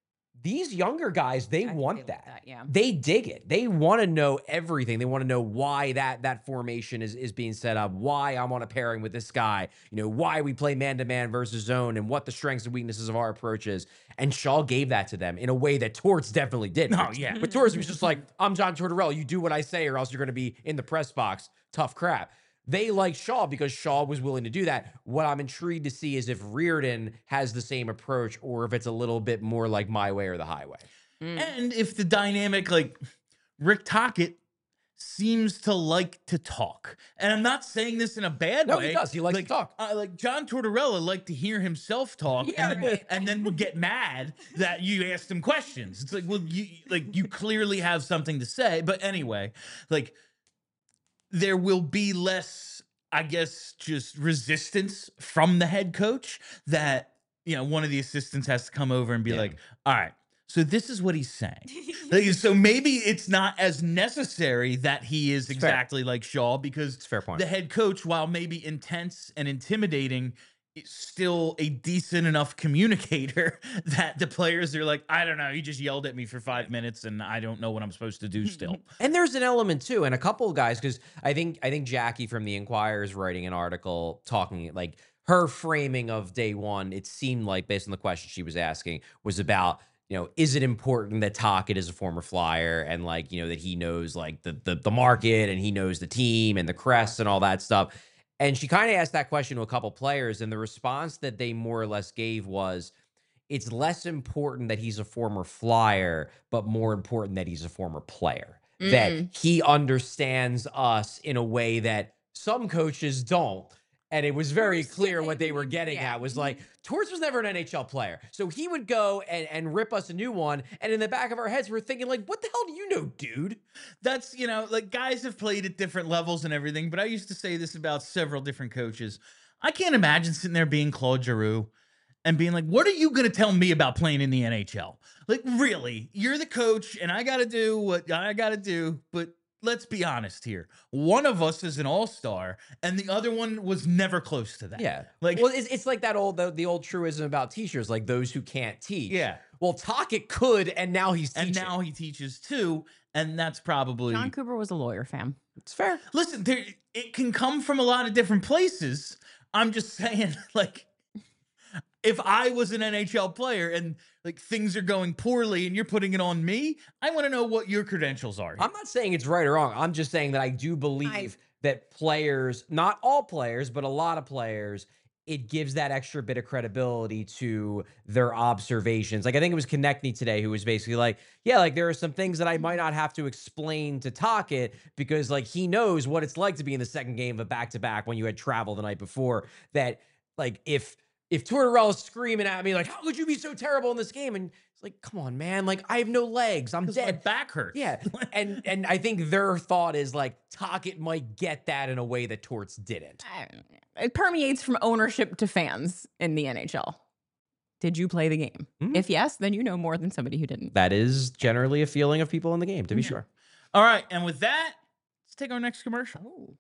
These younger guys, they I think want they like that. that, yeah. They dig it. They want to know everything. They want to know why that that formation is, is being set up, why I'm on a pairing with this guy, you know, why we play man-to-man versus zone, and what the strengths and weaknesses of our approach is. And Shaw gave that to them in a way that Torts definitely did. Oh, But- yeah. But Torts was just like, I'm John Tortorella. You do what I say or else you're going to be in the press box. Tough crap. They like Shaw because Shaw was willing to do that. What I'm intrigued to see is if Reardon has the same approach or if it's a little bit more like my way or the highway. Mm. And if the dynamic, like Rick Tockett seems to like to talk, and I'm not saying this in a bad No, way. he does. He likes to like, talk. Uh, like John Tortorella liked to hear himself talk, Yeah, and, right. and then would get mad that you asked him questions. It's like, well, you like you clearly have something to say, but anyway, like there will be less, I guess, just resistance from the head coach that, you know, one of the assistants has to come over and be Yeah. like, all right, so this is what he's saying. Like, so maybe it's not as necessary that he is fair. exactly like Shaw, because It's a fair point. the head coach, while maybe intense and intimidating, is still a decent enough communicator that the players are like, I don't know, he just yelled at me for five minutes and I don't know what I'm supposed to do still. And there's an element too, and a couple of guys, because I think I think Jackie from the Inquirer is writing an article talking like her framing of day one. It seemed like, based on the question she was asking, was about, you know, is it important that Tockett is a former Flyer and like, you know, that he knows like the the, the market and he knows the team and the crest and all that stuff. And she kind of asked that question to a couple players, and the response that they more or less gave was, it's less important that he's a former Flyer, but more important that he's a former player. That Mm. he understands us in a way that some coaches don't. And it was very clear what they were getting Yeah. at was like, Torts was never an N H L player. So he would go and, and rip us a new one. And in the back of our heads, we're thinking like, what the hell do you know, dude? That's, you know, like guys have played at different levels and everything, but I used to say this about several different coaches. I can't imagine sitting there being Claude Giroux and being like, what are you going to tell me about playing in the N H L? Like, really, you're the coach and I got to do what I got to do. But let's be honest here. One of us is an all-star and the other one was never close to that. Yeah. Like, Well, it's, it's like that old, the, the old truism about teachers, like those who can't teach. yeah. Well, Tockett could, and now he's teaching. And now he teaches too. And that's probably. John Cooper was a lawyer, fam. It's fair. Listen, there, it can come from a lot of different places. I'm just saying, like, if I was an N H L player and like things are going poorly and you're putting it on me, I want to know what your credentials are. here. I'm not saying it's right or wrong. I'm just saying that I do believe that players, not all players, but a lot of players, it gives that extra bit of credibility to their observations. Like I think it was Konechny today who was basically like, yeah, like there are some things that I might not have to explain to Tocchet because like he knows what it's like to be in the second game of a back-to-back when you had travel the night before. That like if if Tortorella's screaming at me like, how could you be so terrible in this game? And it's like, come on, man. Like I have no legs. I'm 'Cause my dead. back hurts. Yeah. And and I think their thought is like Tocchet might get that in a way that Torts didn't. I don't know. It permeates from ownership to fans in the N H L. Did you play the game? Mhm. If yes, then you know more than somebody who didn't. That is generally a feeling of people in the game, to be Yeah. sure. All right, and with that, let's take our next commercial. Oh.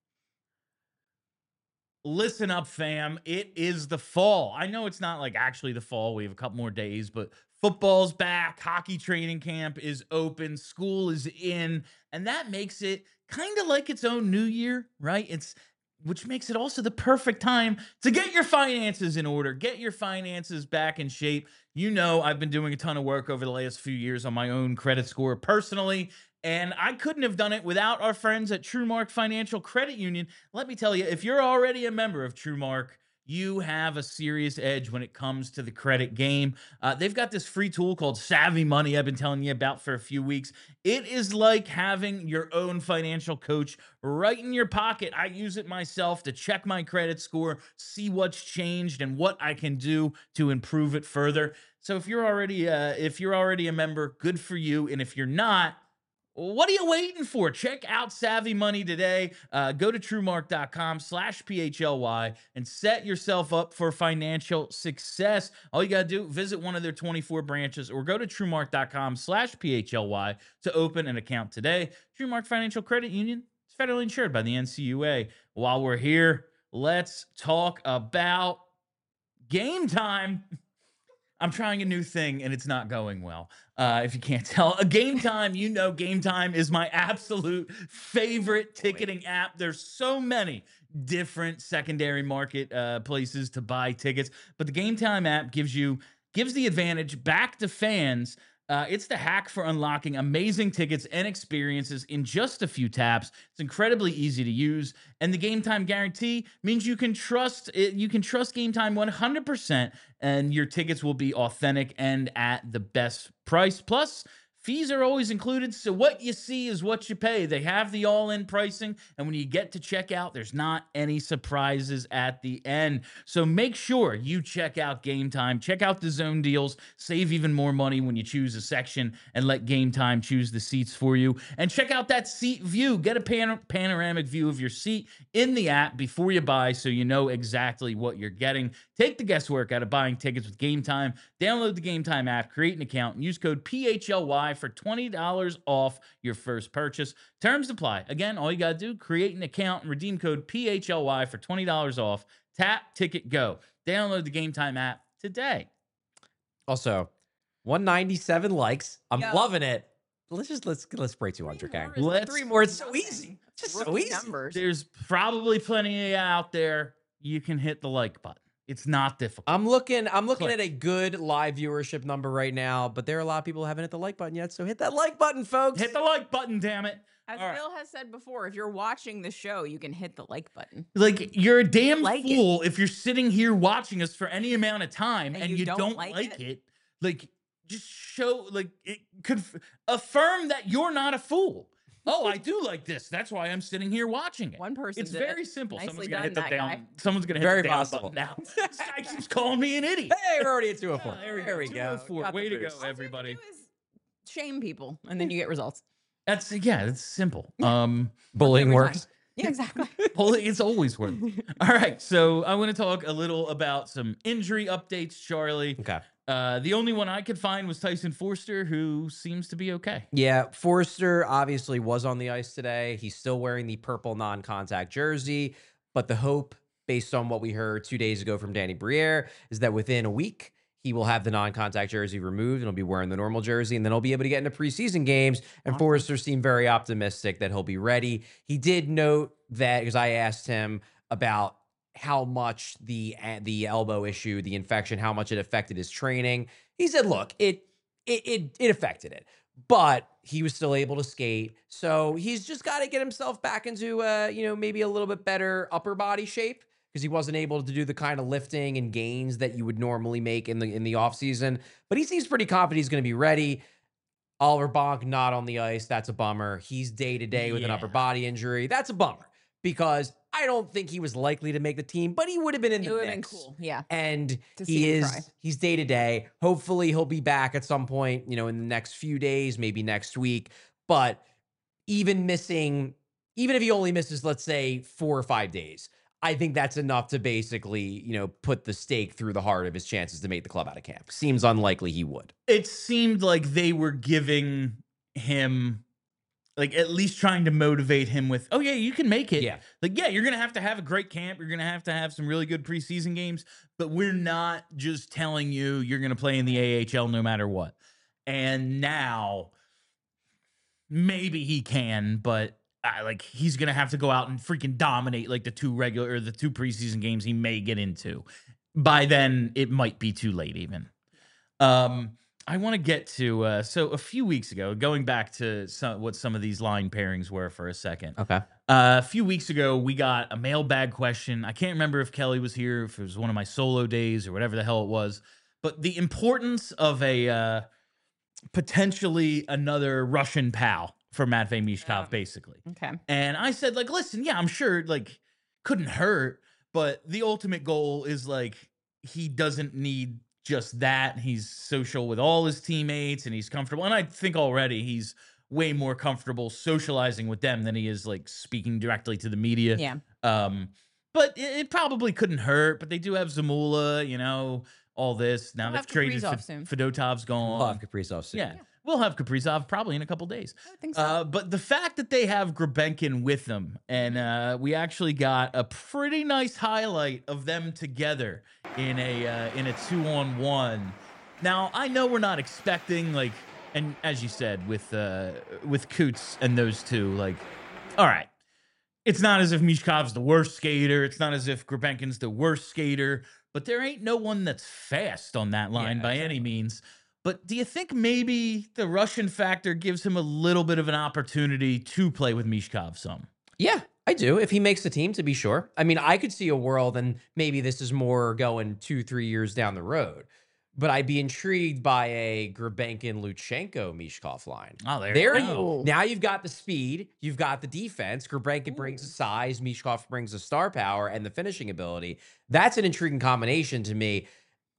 Listen up, fam. It is the fall. I know it's not like actually the fall. We have a couple more days, but football's back. Hockey training camp is open. School is in. And that makes it kind of like its own new year, right? It's which makes it also the perfect time to get your finances in order, get your finances back in shape. You know, I've been doing a ton of work over the last few years on my own credit score personally, and I couldn't have done it without our friends at TrueMark Financial Credit Union. Let me tell you, if you're already a member of TrueMark, you have a serious edge when it comes to the credit game. Uh, they've got this free tool called Savvy Money I've been telling you about for a few weeks. It is like having your own financial coach right in your pocket. I use it myself to check my credit score, see what's changed and what I can do to improve it further. So if you're already uh, if you're already a member, good for you. And if you're not, what are you waiting for? Check out Savvy Money today. Uh, go to TrueMark.com slash PHLY and set yourself up for financial success. All you got to do, visit one of their twenty-four branches or go to TrueMark.com slash PHLY to open an account today. TrueMark Financial Credit Union is federally insured by the N C U A. While we're here, let's talk about game time. I'm trying a new thing and it's not going well. Uh, if you can't tell, a Game Time, you know, Game Time is my absolute favorite ticketing app. There's so many different secondary market uh, places to buy tickets, but the Game Time app gives you gives the advantage back to fans. Uh, it's the hack for unlocking amazing tickets and experiences in just a few taps. It's incredibly easy to use, and the Game Time guarantee means you can trust it. You can trust Game Time one hundred percent, and your tickets will be authentic and at the best price. Plus, fees are always included, so what you see is what you pay. They have the all-in pricing, and when you get to checkout, there's not any surprises at the end. So make sure you check out Game Time. Check out the zone deals. Save even more money when you choose a section and let Game Time choose the seats for you. And check out that seat view. Get a pan- panoramic view of your seat in the app before you buy so you know exactly what you're getting. Take the guesswork out of buying tickets with Game Time. Download the Game Time app, create an account, and use code P H L Y for twenty dollars off your first purchase. Terms apply. Again, all you got to do, create an account and redeem code P H L Y for twenty dollars off. Tap, ticket, go. Download the Game Time app today. Also, one ninety-seven likes. I'm Yo. loving it. Let's just let's let's break two hundred, Three gang. more is Let's- Three more. It's so nothing. easy. It's just Rookie so easy. numbers. There's probably plenty of you out there. You can hit the like button. It's not difficult. I'm looking. I'm looking Click. at a good live viewership number right now, but there are a lot of people who haven't hit the like button yet. So hit that like button, folks. Hit the like button, damn it. As All right. Bill has said before, if you're watching the show, you can hit the like button. Like, you're a damn Like it. fool if you're sitting here watching us for any amount of time and, And you, you don't, don't like, like it. it. Like, just show, like, it could affirm that you're not a fool. Oh, I do like this. That's why I'm sitting here watching it. One person It's did it. very simple. Nicely Someone's gonna done, hit the that down. guy. Someone's gonna hit Very the down possible. button now. This guy keeps calling me an idiot. Hey, we're already at two oh four. Ah, there we there go. we two go. oh four. Got the Way to boost. go, All you have to everybody. do is shame people, and then you get results. That's yeah. It's simple. Um, Bullying Every works. time. Yeah, exactly. Bully- it's always worth. All right, so I want to talk a little about some injury updates, Charlie. Okay. Uh, the only one I could find was Tyson Forster, who seems to be okay. Yeah, Forster obviously was on the ice today. He's still wearing the purple non-contact jersey, but the hope, based on what we heard two days ago from Danny Briere, is that within a week he will have the non-contact jersey removed and he'll be wearing the normal jersey, and then he'll be able to get into preseason games. And Awesome. Forster seemed very optimistic that he'll be ready. He did note that, because I asked him about how much the the elbow issue, the infection, how much it affected his training. He said, look, it it it, it affected it, but he was still able to skate. So he's just got to get himself back into, uh, you know, maybe a little bit better upper body shape because he wasn't able to do the kind of lifting and gains that you would normally make in the in the offseason. But he seems pretty confident he's going to be ready. Oliver Bonk not on the ice. That's a bummer. He's day to day with an upper Yeah. body injury. That's a bummer because I don't think he was likely to make the team, but he would have been in It the would have been mix. cool. Yeah. And To see he him is try. he's day to day. Hopefully he'll be back at some point, you know, in the next few days, maybe next week. But even missing, even if he only misses, let's say, four or five days, I think that's enough to basically, you know, put the stake through the heart of his chances to make the club out of camp. Seems unlikely he would. It seemed like they were giving him, like, at least trying to motivate him with, oh yeah, you can make it. Yeah. Like, yeah, you're gonna have to have a great camp. You're gonna have to have some really good preseason games, but we're not just telling you you're gonna play in the A H L no matter what. And now, maybe he can, but uh, like he's gonna have to go out and freaking dominate like the two regular or the two preseason games he may get into. By then, it might be too late even. Um, I want to get to uh, so a few weeks ago, going back to some, what some of these line pairings were for a second. Okay. Uh, a few weeks ago, we got a mailbag question. I can't remember if Kelly was here, if it was one of my solo days or whatever the hell it was, but the importance of a uh, potentially another Russian pal for Matvey Mishkov, Yeah. basically. Okay. And I said, like, listen, yeah, I'm sure, like, couldn't hurt, but the ultimate goal is, like, he doesn't need just that. He's social with all his teammates and he's comfortable. And I think already he's way more comfortable socializing with them than he is, like, speaking directly to the media. Yeah. Um, but it, it probably couldn't hurt. But they do have Zamula, you know, all this. Now We'll they've have traded Kaprizov F- soon. Fedotov's gone. We'll have Kaprizov soon. Yeah. We'll have Kaprizov probably in a couple days. I would think so. Uh, but the fact that they have Grebenkin with them, and uh, we actually got a pretty nice highlight of them together in a uh, in a two on one. Now I know we're not expecting, like, and as you said with uh, with Coots and those two, like, all right, it's not as if Mishkov's the worst skater. It's not as if Grebenkin's the worst skater. But there ain't no one that's fast on that line Yeah, by any means. But do you think maybe the Russian factor gives him a little bit of an opportunity to play with Mishkov some? Yeah, I do. If he makes the team, to be sure. I mean, I could see a world, and maybe this is more going two, three years down the road, but I'd be intrigued by a Grebenkin, Luchenko, Mishkov line. Oh, there, There, you go. go. now you've got the speed, you've got the defense. Grebenkin brings the size, Mishkov brings the star power and the finishing ability. That's an intriguing combination to me.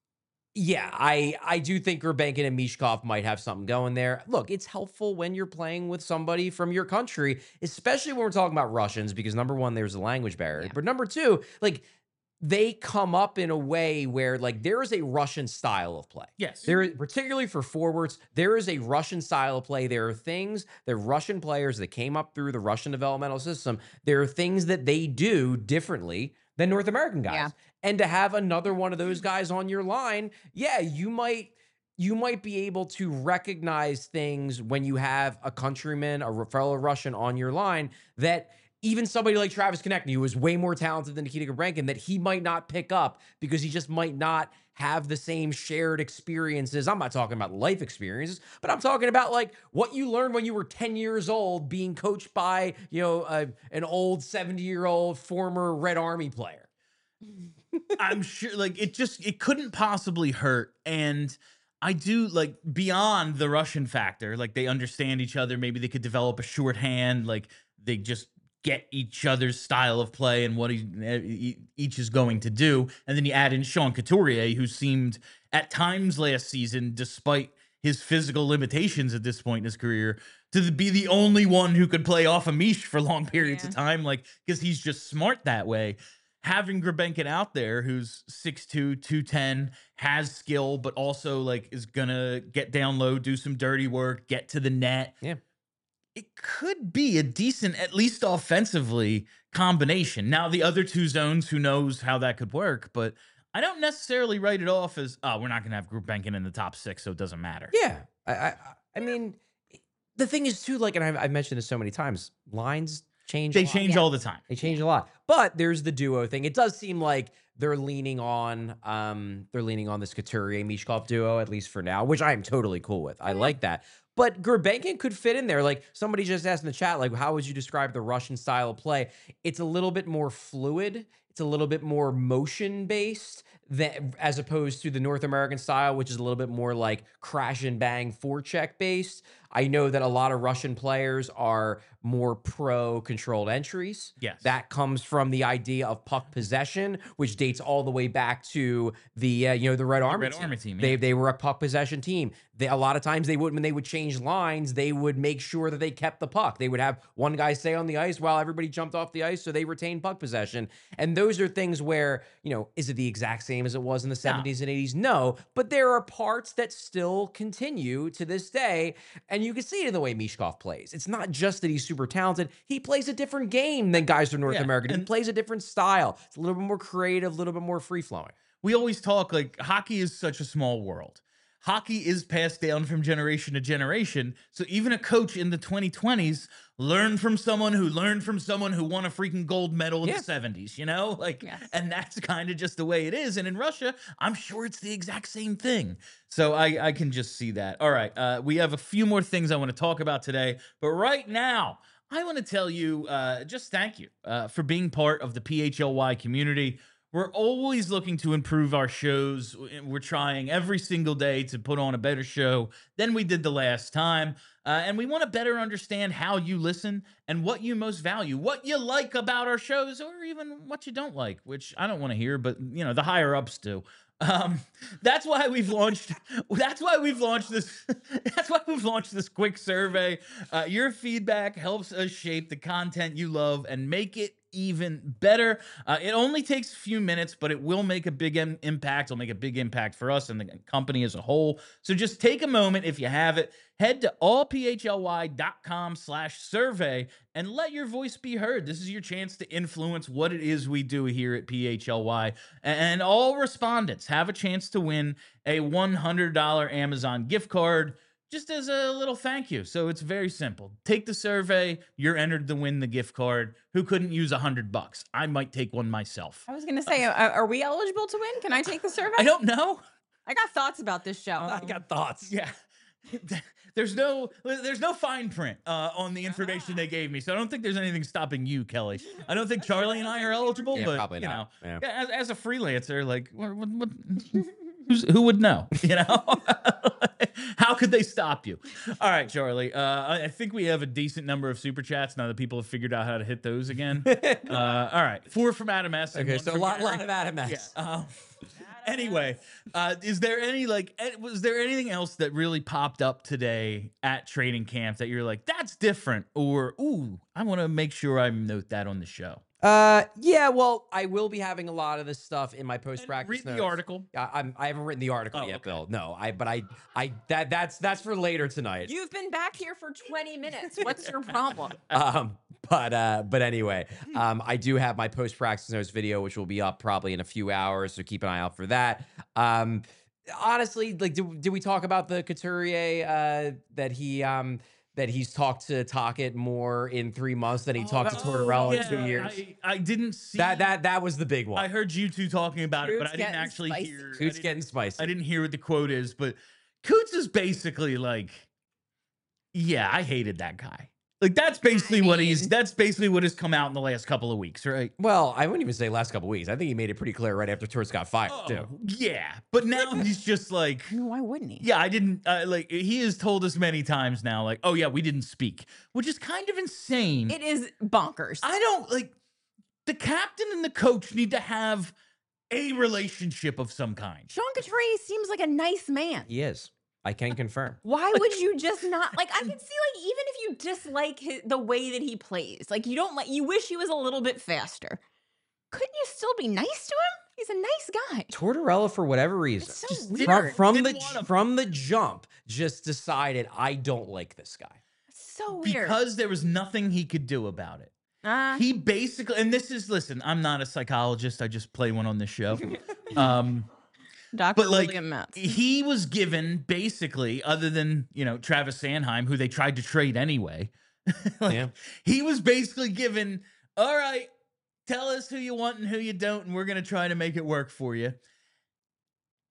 Yeah, I I do think Grebenkin and Mishkov might have something going there. Look, it's helpful when you're playing with somebody from your country, especially when we're talking about Russians, because number one, there's a language barrier. Yeah. But number two, like, they come up in a way where, like, there is a Russian style of play. Yes. There is, particularly for forwards, there is a Russian style of play. There are things that Russian players that came up through the Russian developmental system, there are things that they do differently than North American guys. Yeah. And to have another one of those guys on your line, yeah, you might you might be able to recognize things when you have a countryman, a fellow Russian on your line that even somebody like Travis Konechny, who is way more talented than Nikita Grebenkin, that he might not pick up because he just might not have the same shared experiences. I'm not talking about life experiences, but I'm talking about, like, what you learned when you were ten years old being coached by, you know, a, an old seventy-year-old former Red Army player. I'm sure, like, it just, it couldn't possibly hurt. And I do, like, beyond the Russian factor, like, they understand each other. Maybe they could develop a shorthand. Like, they just get each other's style of play and what he, each is going to do. And then you add in Sean Couturier, who seemed at times last season, despite his physical limitations at this point in his career, to be the only one who could play off a Mish for long periods Yeah. of time, like, because he's just smart that way. Having Grebenkin out there, who's six two, two ten, has skill, but also, like, is gonna get down low, do some dirty work, get to the net. Yeah. It could be a decent, at least offensively, combination. Now, the other two zones, who knows how that could work, but I don't necessarily write it off as, oh, we're not gonna have Grebenkin in the top six, so it doesn't matter. Yeah. I I, I mean, the thing is, too, like, and I've, I've mentioned this so many times, lines change. a They lot. change Yeah. all the time. They change a lot. But there's the duo thing. It does seem like they're leaning on um they're leaning on this Couturier Mishkov duo, at least for now, which I am totally cool with. I like that. but Gurbankin could fit in there. Like somebody just asked in the chat, like, how would you describe the Russian style of play? It's a little bit more fluid. It's a little bit more motion based than as opposed to the North American style, which is a little bit more like crash and bang forecheck based. I know that a lot of Russian players are more pro controlled entries. Yes. That comes from the idea of puck possession, which dates all the way back to the uh, you know the Red Army Red team. Army team, They yeah. they were a puck possession team. They a lot of times they would when they would change lines, they would make sure that they kept the puck. They would have one guy stay on the ice while everybody jumped off the ice, so they retained puck possession. And those are things where, you know, is it the exact same as it was in the seventies and eighties? No, but there are parts that still continue to this day, and you can see it in the way Mishkov plays. It's not just that he's super talented; he plays a different game than guys from North Yeah, America. He and- plays a different style. It's a little bit more creative, a little bit more free flowing. We always talk like hockey is such a small world. Hockey is passed down from generation to generation. So even a coach in the twenty twenties learned from someone who learned from someone who won a freaking gold medal in Yeah. the seventies, you know? Like, Yes. and that's kind of just the way it is. And in Russia, I'm sure it's the exact same thing. So I, I can just see that. All right. Uh, we have a few more things I want to talk about today. But right now, I want to tell you uh, just thank you uh, for being part of the P H L Y community. We're always looking to improve our shows. We're trying every single day to put on a better show than we did the last time. Uh, and we want to better understand how you listen and what you most value, what you like about our shows, or even what you don't like, which I don't want to hear, but you know, the higher ups do. Um, that's why we've launched. That's why we've launched this. That's why we've launched this quick survey. Uh, your feedback helps us shape the content you love and make it even better. Uh, it only takes a few minutes, but it will make a big im- impact. It'll make a big impact for us and the company as a whole. So just take a moment if you have it. Head to allphly.com slash survey and let your voice be heard. This is your chance to influence what it is we do here at P H L Y. And all respondents have a chance to win a one hundred dollars Amazon gift card just as a little thank you. So it's very simple. Take the survey. You're entered to win the gift card. Who couldn't use a hundred bucks? I might take one myself. I was gonna say, uh, are we eligible to win? Can I take the survey? I don't know. I got thoughts about this show. I got thoughts. Yeah. There's no there's no fine print uh, on the information they gave me, so I don't think there's anything stopping you, Kelly. I don't think Charlie and I are eligible, Yeah, but probably you not. know, Yeah. as, as a freelancer, like what, what, what who's, who would know? You know, how could they stop you? All right, Charlie. Uh, I, I think we have a decent number of super chats now that people have figured out how to hit those again. Uh, all right, four from Adam S. and Okay, one so a from lot, Gary. lot of Adam S. Yeah. Um, anyway, uh, is there any like, eh, was there anything else that really popped up today at training camp that you're like, that's different, or ooh, I want to make sure I note that on the show? Uh, yeah. Well, I will be having a lot of this stuff in my post And practice read notes. the article. I, I'm. I haven't written the article Oh, yet, okay. Bill. No, I. But I. I. That. That's. That's for later tonight. You've been back here for twenty minutes. What's your problem? Um. But. Uh. But anyway. Um. I do have my post practice notes video, which will be up probably in a few hours. So keep an eye out for that. Um. Honestly, like, did, did we talk about the Couturier? Uh. That he. Um. That he's talked to Tocchet more in three months than he talked to Oh, Tortorella yeah, in two years. I, I didn't see that. That. That was the big one. I heard you two talking about it, but Coots I didn't getting actually spicy. hear. I Coots didn't- getting spicy. I didn't hear what the quote is, but Coots is basically like, yeah, I hated that guy. Like that's basically what he's. mean- That's basically what has come out in the last couple of weeks, right? Well, I wouldn't even say last couple weeks. I think he made it pretty clear right after Torts got fired, too. Oh, yeah, but now he's just like, I mean, why wouldn't he? yeah, I didn't uh, like. He has told us many times now, like, oh yeah, we didn't speak, which is kind of insane. It is bonkers. I don't like the captain and the coach need to have a relationship of some kind. Sean Couturier seems like a nice man. He is. I can confirm. Why would you just not like? I can see like even if you dislike his, the way that he plays, like you don't like, you wish he was a little bit faster. Couldn't you still be nice to him? He's a nice guy. Tortorella, for whatever reason, It's so Just weird. from, from the Didn't wanna- from the jump, just decided I don't like this guy. It's so weird. Because there was nothing he could do about it. uh, He basically, and this is, listen, I'm not a psychologist. I just play one on this show. Um, Doctor but like, William Metz. he was given basically, other than, you know, Travis Sanheim, who they tried to trade anyway. like, Yeah. He was basically given, all right, tell us who you want and who you don't, and we're going to try to make it work for you.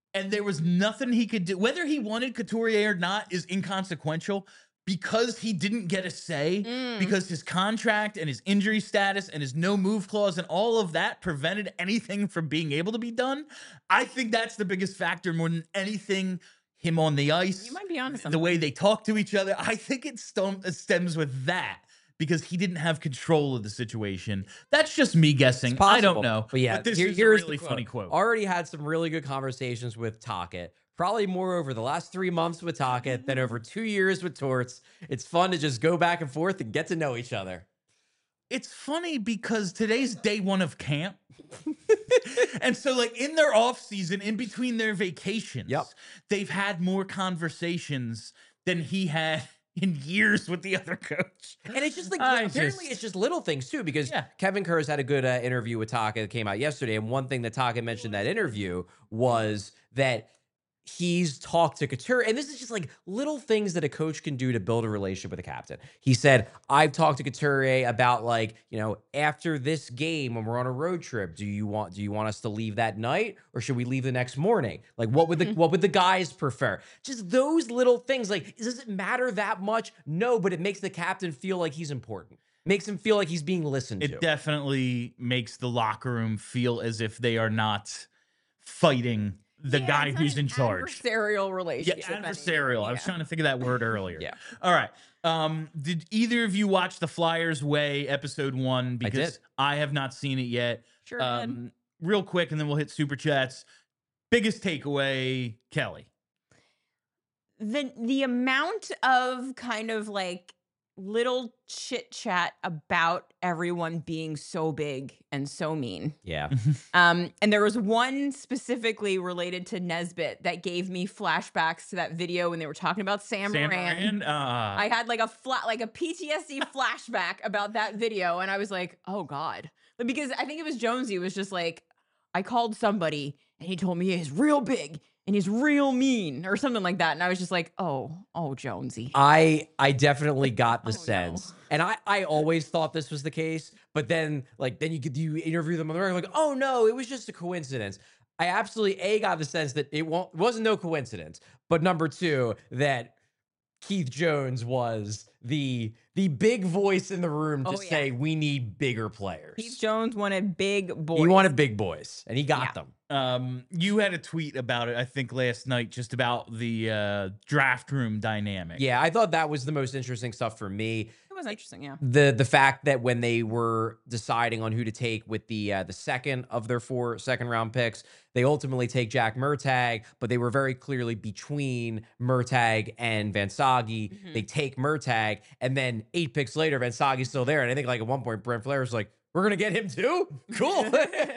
and there was nothing he could do. Whether he wanted Couturier or not is inconsequential because he didn't get a say, Mm. because his contract and his injury status and his no move clause and all of that prevented anything from being able to be done. I think that's the biggest factor more than anything. Him on the ice, You might be onto the something. way they talk to each other. I think it stem- it stems with that because he didn't have control of the situation. That's just me guessing. It's I don't possible. know. But yeah, but this here- is here's a the really quote. funny quote. Already had some really good conversations with Tocchet. Probably more over the last three months with Tocchet than over two years with Torts. It's fun to just go back and forth and get to know each other. It's funny because today's day one of camp. And so, like, in their off season, in between their vacations, Yep. they've had more conversations than he had in years with the other coach. And it's just like, I apparently just- it's just little things too, because Yeah. Kevin Kurz had a good uh, interview with Tocchet that came out yesterday. And one thing that Tocchet mentioned in that interview was that he's talked to Couture, and this is just like little things that a coach can do to build a relationship with a captain. He said, I've talked to Couture about, like, you know, after this game when we're on a road trip, do you want do you want us to leave that night or should we leave the next morning? Like, what would the what would the guys prefer? Just those little things. Like, does it matter that much? No, but it makes the captain feel like he's important. Makes him feel like he's being listened It to. definitely makes the locker room feel as if they are not fighting the Yeah, guy it's not who's an in charge. Adversarial Yeah, relationship. anymore. adversarial. I was Yeah. trying to think of that word earlier. Yeah. All right. Um, did either of you watch the Flyers Way episode one? Because did. I have not seen it yet. Sure did. Um, real quick, and then we'll hit super chats. Biggest takeaway, Kelly. the the amount of kind of like little chit chat about everyone being so big and so mean. Yeah. Um, and there was one specifically related to Nesbitt that gave me flashbacks to that video when they were talking about Sam, Sam Moran. Moran. Uh, I had like a flat, like a P T S D flashback about that video, and I was like, "Oh God!" But because I think it was Jonesy was just like, I called somebody and he told me he's real big and he's real mean or something like that, and I was just like, "Oh, oh, Jonesy." I I definitely got the Oh, no. sense, and I I always thought this was the case, but then like then you could you interview them on the record like, oh no, it was just a coincidence. I absolutely a got the sense that it won't it wasn't no coincidence, but number two that Keith Jones was the the big voice in the room to Oh, yeah. say we need bigger players. Keith Jones wanted big boys. He wanted big boys, and he got Yeah. them. Um, you had a tweet about it, I think, last night, just about the uh, draft room dynamic. Yeah, I thought that was the most interesting stuff for me. It was interesting, yeah. the the fact that when they were deciding on who to take with the uh, the second of their four second round picks, they ultimately take Jack Murtagh, but they were very clearly between Murtagh and Vansagi. Mhm. They take Murtagh, and then eight picks later, Vansagi's still there, and I think like at one point Brent Flair was like, "We're gonna get him too? Cool."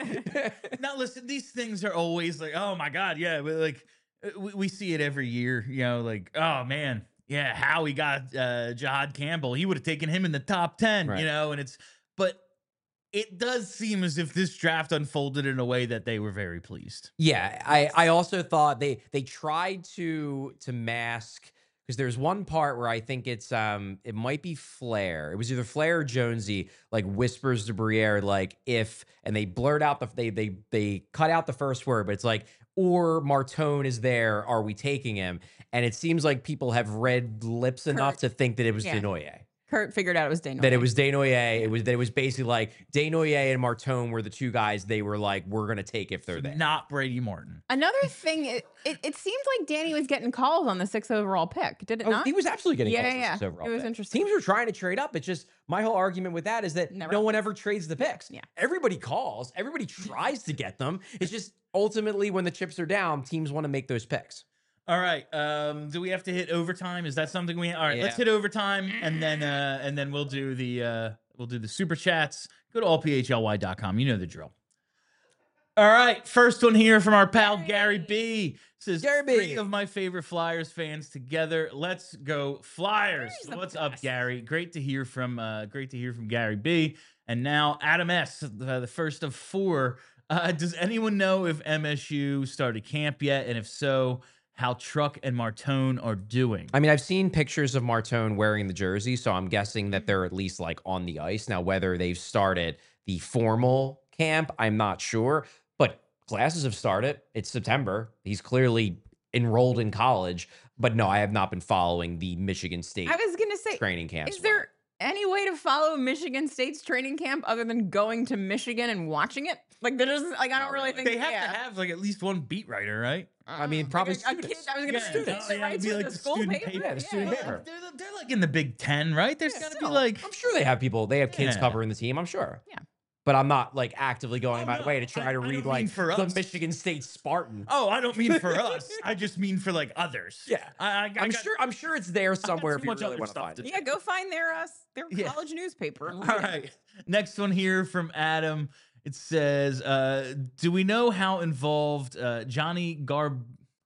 Now, listen, these things are always like, oh my God, yeah, but like uh, we, we see it every year, you know, like, oh man, yeah, how he got uh, Jahad Campbell, he would have taken him in the top ten, Right. you know, and it's, but it does seem as if this draft unfolded in a way that they were very pleased. Yeah, I I also thought they they tried to to mask because there's one part where I think it's um it might be Flair. It was either Flair or Jonesy like whispers to Briere like if and they blurt out the they they they cut out the first word, but it's like or Martone is there, are we taking him? And it seems like people have read lips enough Kurt. to think that it was Yeah. Desnoyers. Kurt figured out it was Dano. That it was Desnoyers. It was that it was basically like Desnoyers and Martone were the two guys they were like, we're gonna take if they're there. Not Brady Martin. Another thing, it, it, it seemed like Danny was getting calls on the sixth overall pick. Did it Oh, not? he was absolutely getting Yeah, calls yeah, for yeah. six overall It was pick. interesting. Teams were trying to trade up. It's just my whole argument with that is that Never no one happens. ever trades the picks. Yeah. Everybody calls. Everybody tries to get them. It's just ultimately when the chips are down, teams want to make those picks. All right. Um, do we have to hit overtime? Is that something we? All right. Let's Yeah. hit overtime, and then uh, and then we'll do the uh, we'll do the super chats. Go to all p h l y dot com. You know the drill. All right. First one here from our pal Gary B. Says Gary B. three of my favorite Flyers fans together. Let's go Flyers. Gary's the What's up, best. Gary? Great to hear from uh, great to hear from Gary B. And now Adam S. The, the first of four. Uh, does anyone know if M S U started camp yet? And if so, how Truck and Martone are doing? I mean, I've seen pictures of Martone wearing the jersey, so I'm guessing that they're at least like on the ice. Now, whether they've started the formal camp, I'm not sure. But classes have started. It's September. He's clearly enrolled in college. But no, I have not been following the Michigan State I was gonna say, training camps. is well. there any way to follow Michigan State's training camp other than going to Michigan and watching it? Like there doesn't like I don't Not really really. think They have yeah. to have like at least one beat writer, right? I mean, Uh, probably like a, a kid. students. I was gonna Yeah, say students. no, yeah, right? it'd be So like the the school student paper. paper, the student yeah. paper. They're, they're like in the Big Ten, right? There's Yeah, got to be still. like I'm sure they have people. They have kids Yeah. covering the team. I'm sure. Yeah. But I'm not like actively going Oh, my no, way to try I- to I read don't like mean for the us. Michigan State Spartan. Oh, I don't mean for us. I just mean for like others. Yeah. I, I, I I'm got- sure. I'm sure it's there somewhere too if you much really other want to stuff find to it. do. Yeah, go find their uh, their Yeah. college newspaper. All right. Next one here from Adam. It says, uh, "Do we know how involved uh, Johnny Garb?"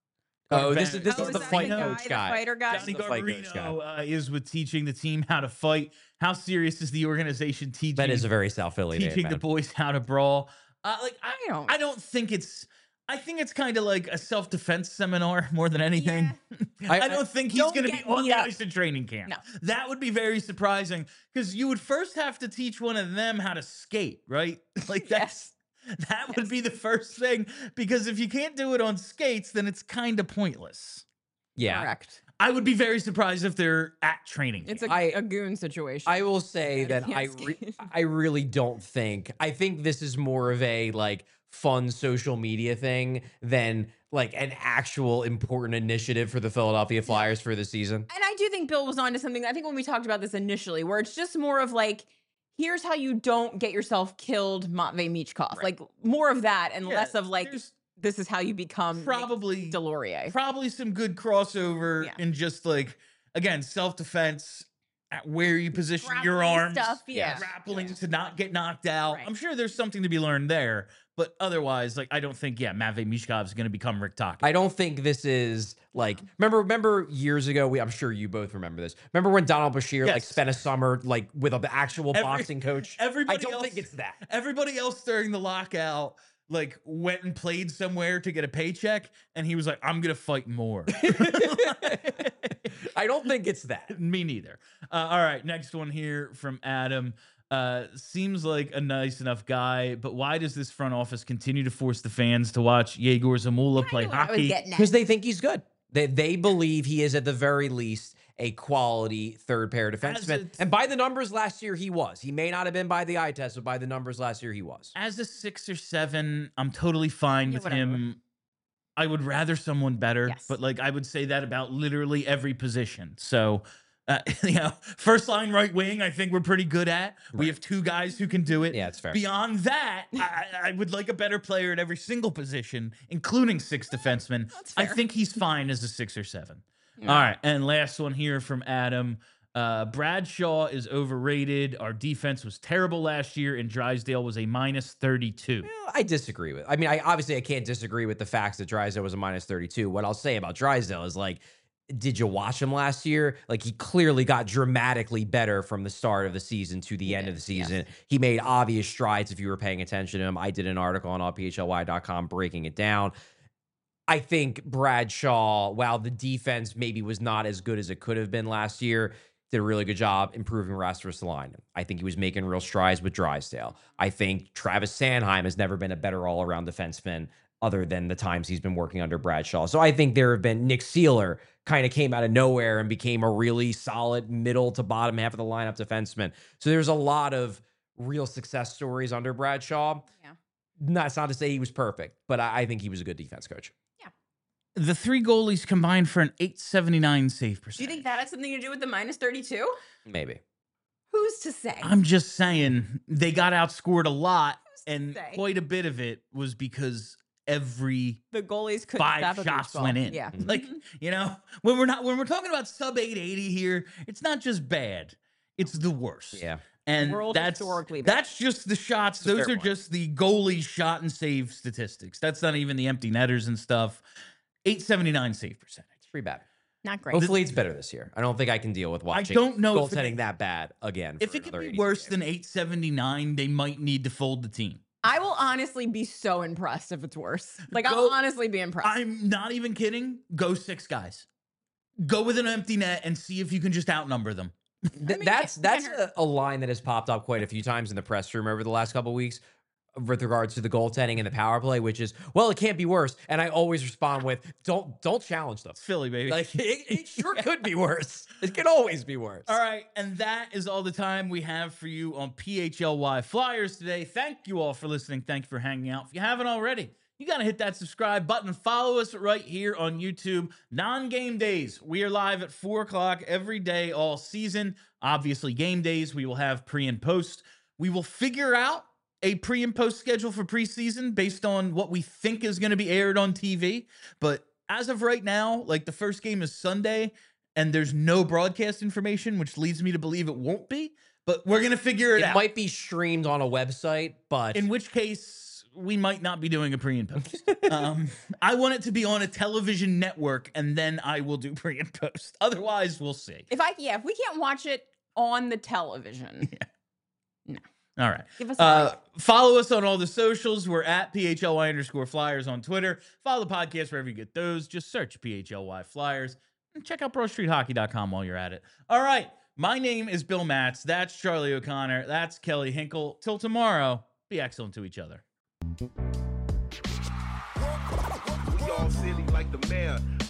Oh, this is- this Oh, is is the that fight guy, coach the guy. fighter guy. Johnny the fight coach guy. Garbarino uh, is with teaching the team how to fight. How serious is the organization teaching? That is a very South Philly name, teaching the man. boys how to brawl. Uh, like I, I don't- I don't think it's. I think it's kind of like a self defense seminar more than anything. I- I, don't think he's Don't going to be get on beat the up. ice in training camp. No. That would be very surprising because you would first have to teach one of them how to skate, right? Like that's that would be the first thing because if you can't do it on skates, then it's kind of pointless. Yeah. Correct. I would be very surprised if they're at training. It's camp. a, I- a goon situation. I will say Yeah, that you I can't re- skate. I really don't think I think this is more of a like fun social media thing than like an actual important initiative for the Philadelphia Flyers for the season. And I do think Bill was onto something. I think when we talked about this initially, where it's just more of like, here's how you don't get yourself killed, Matvey Michkov. Like more of that and Yeah, less of like, there's this is how you become Nick probably Delorier. probably some good crossover Yeah. and just like again self defense at where you position your Grappling arms, stuff, yeah. grappling to not get knocked out. Right. I'm sure there's something to be learned there, but otherwise, like I don't think yeah, Matvey Mishkov is going to become Rick Tocchet. I don't think this is like remember remember years ago we I'm sure you both remember this. Remember when Donald Bashir like Yes. spent a summer like with an actual Every- boxing coach? Everybody I don't else, think it's that. Everybody else during the lockout like went and played somewhere to get a paycheck, and he was like, "I'm gonna fight more." I don't think it's that. Me neither. Uh, all right, next one here from Adam. Uh, seems like a nice enough guy, but why does this front office continue to force the fans to watch Yegor Zamula play I knew what I was hockey? getting at. Because they think he's good. They they believe he is at the very least a quality third pair As defenseman. it's- And by the numbers last year, he was. He may not have been by the eye test, but by the numbers last year, he was. As a six or seven, I'm totally fine Yeah, with whatever. him. I would rather someone better, Yes. but like I would say that about literally every position. So, uh, you know, first line right wing, I think we're pretty good at. We Right. have two guys who can do it. Yeah, it's fair. Beyond that, I, I would like a better player at every single position, including six defensemen. That's I fair. think he's fine as a six or seven. Yeah. All right, and last one here from Adam. Uh, Bradshaw is overrated. Our defense was terrible last year, and Drysdale was a minus thirty-two. Well, I disagree with. I mean, I obviously I can't disagree with the facts that Drysdale was a minus thirty-two. What I'll say about Drysdale is like, did you watch him last year? Like he clearly got dramatically better from the start of the season to the He end did, of the yes. season. He made obvious strides if you were paying attention to him. I did an article on all P H L Y dot com breaking it down. I think Bradshaw, while the defense maybe was not as good as it could have been last year, did a really good job improving Rasmus Line. I think he was making real strides with Drysdale. I think Travis Sanheim has never been a better all-around defenseman other than the times he's been working under Bradshaw. So I think there have been Nick Seeler kind of came out of nowhere and became a really solid middle to bottom half of the lineup defenseman. So there's a lot of real success stories under Bradshaw. Yeah. That's not to say he was perfect, but I, I think he was a good defense coach. The three goalies combined for an eight seventy-nine save Do percentage. you think that has something to do with the minus thirty-two? Maybe. Who's to say? I'm just saying they got outscored a lot, Who's to and say? quite a bit of it was because every The goalies could five stop a shots beach ball. went in. Yeah. Like, Mhm. you know, when we're not when we're talking about sub eight eighty here, it's not just bad; it's the worst. Yeah. And World that's historically bad. that's just the shots. It's a Those fair are point. just the goalie shot and save statistics. That's not even the empty netters and stuff. eight seventy-nine save percentage. It's pretty bad. Not great. Hopefully it's better this year. I don't think I can deal with watching don't know if it- goaltending that bad again. If for it could another be eighty worse games. than eight seventy-nine, they might need to fold the team. I will honestly be so impressed if it's worse. Like Go- I'll honestly be impressed. I'm not even kidding. Go six guys. Go with an empty net and see if you can just outnumber them. Th- I mean, that's it that's can't a, a line that has popped up quite a few times in the press room over the last couple of weeks. with regards to the goaltending and the power play, which is, well, it can't be worse. And I always respond with, don't don't challenge them. It's Philly, baby. Like it, it sure could be worse. It could always be worse. All right, and that is all the time we have for you on P H L Y Flyers today. Thank you all for listening. Thank you for hanging out. If you haven't already, you got to hit that subscribe button. Follow us right here on YouTube. Non-game days, we are live at four o'clock every day all season. Obviously, game days, we will have pre and post. We will figure out a pre and post schedule for preseason based on what we think is going to be aired on T V. But as of right now, like the first game is Sunday and there's no broadcast information, which leads me to believe it won't be, but we're going to figure it, It out. might be streamed on a website, but In which case we might not be doing a pre and post. um, I want it to be on a television network and then I will do pre and post. Otherwise we'll see. If I yeah, if we can't watch it on the television, All right. give us a Uh, break. follow us on all the socials. We're at P H L Y underscore Flyers on Twitter. Follow the podcast wherever you get those. Just search P H L Y Flyers and check out pro street hockey dot com while you're at it. All right. My name is Bill Matz. That's Charlie O'Connor. That's Kelly Hinkle. Till tomorrow, be excellent to each other. We all silly like the mayor.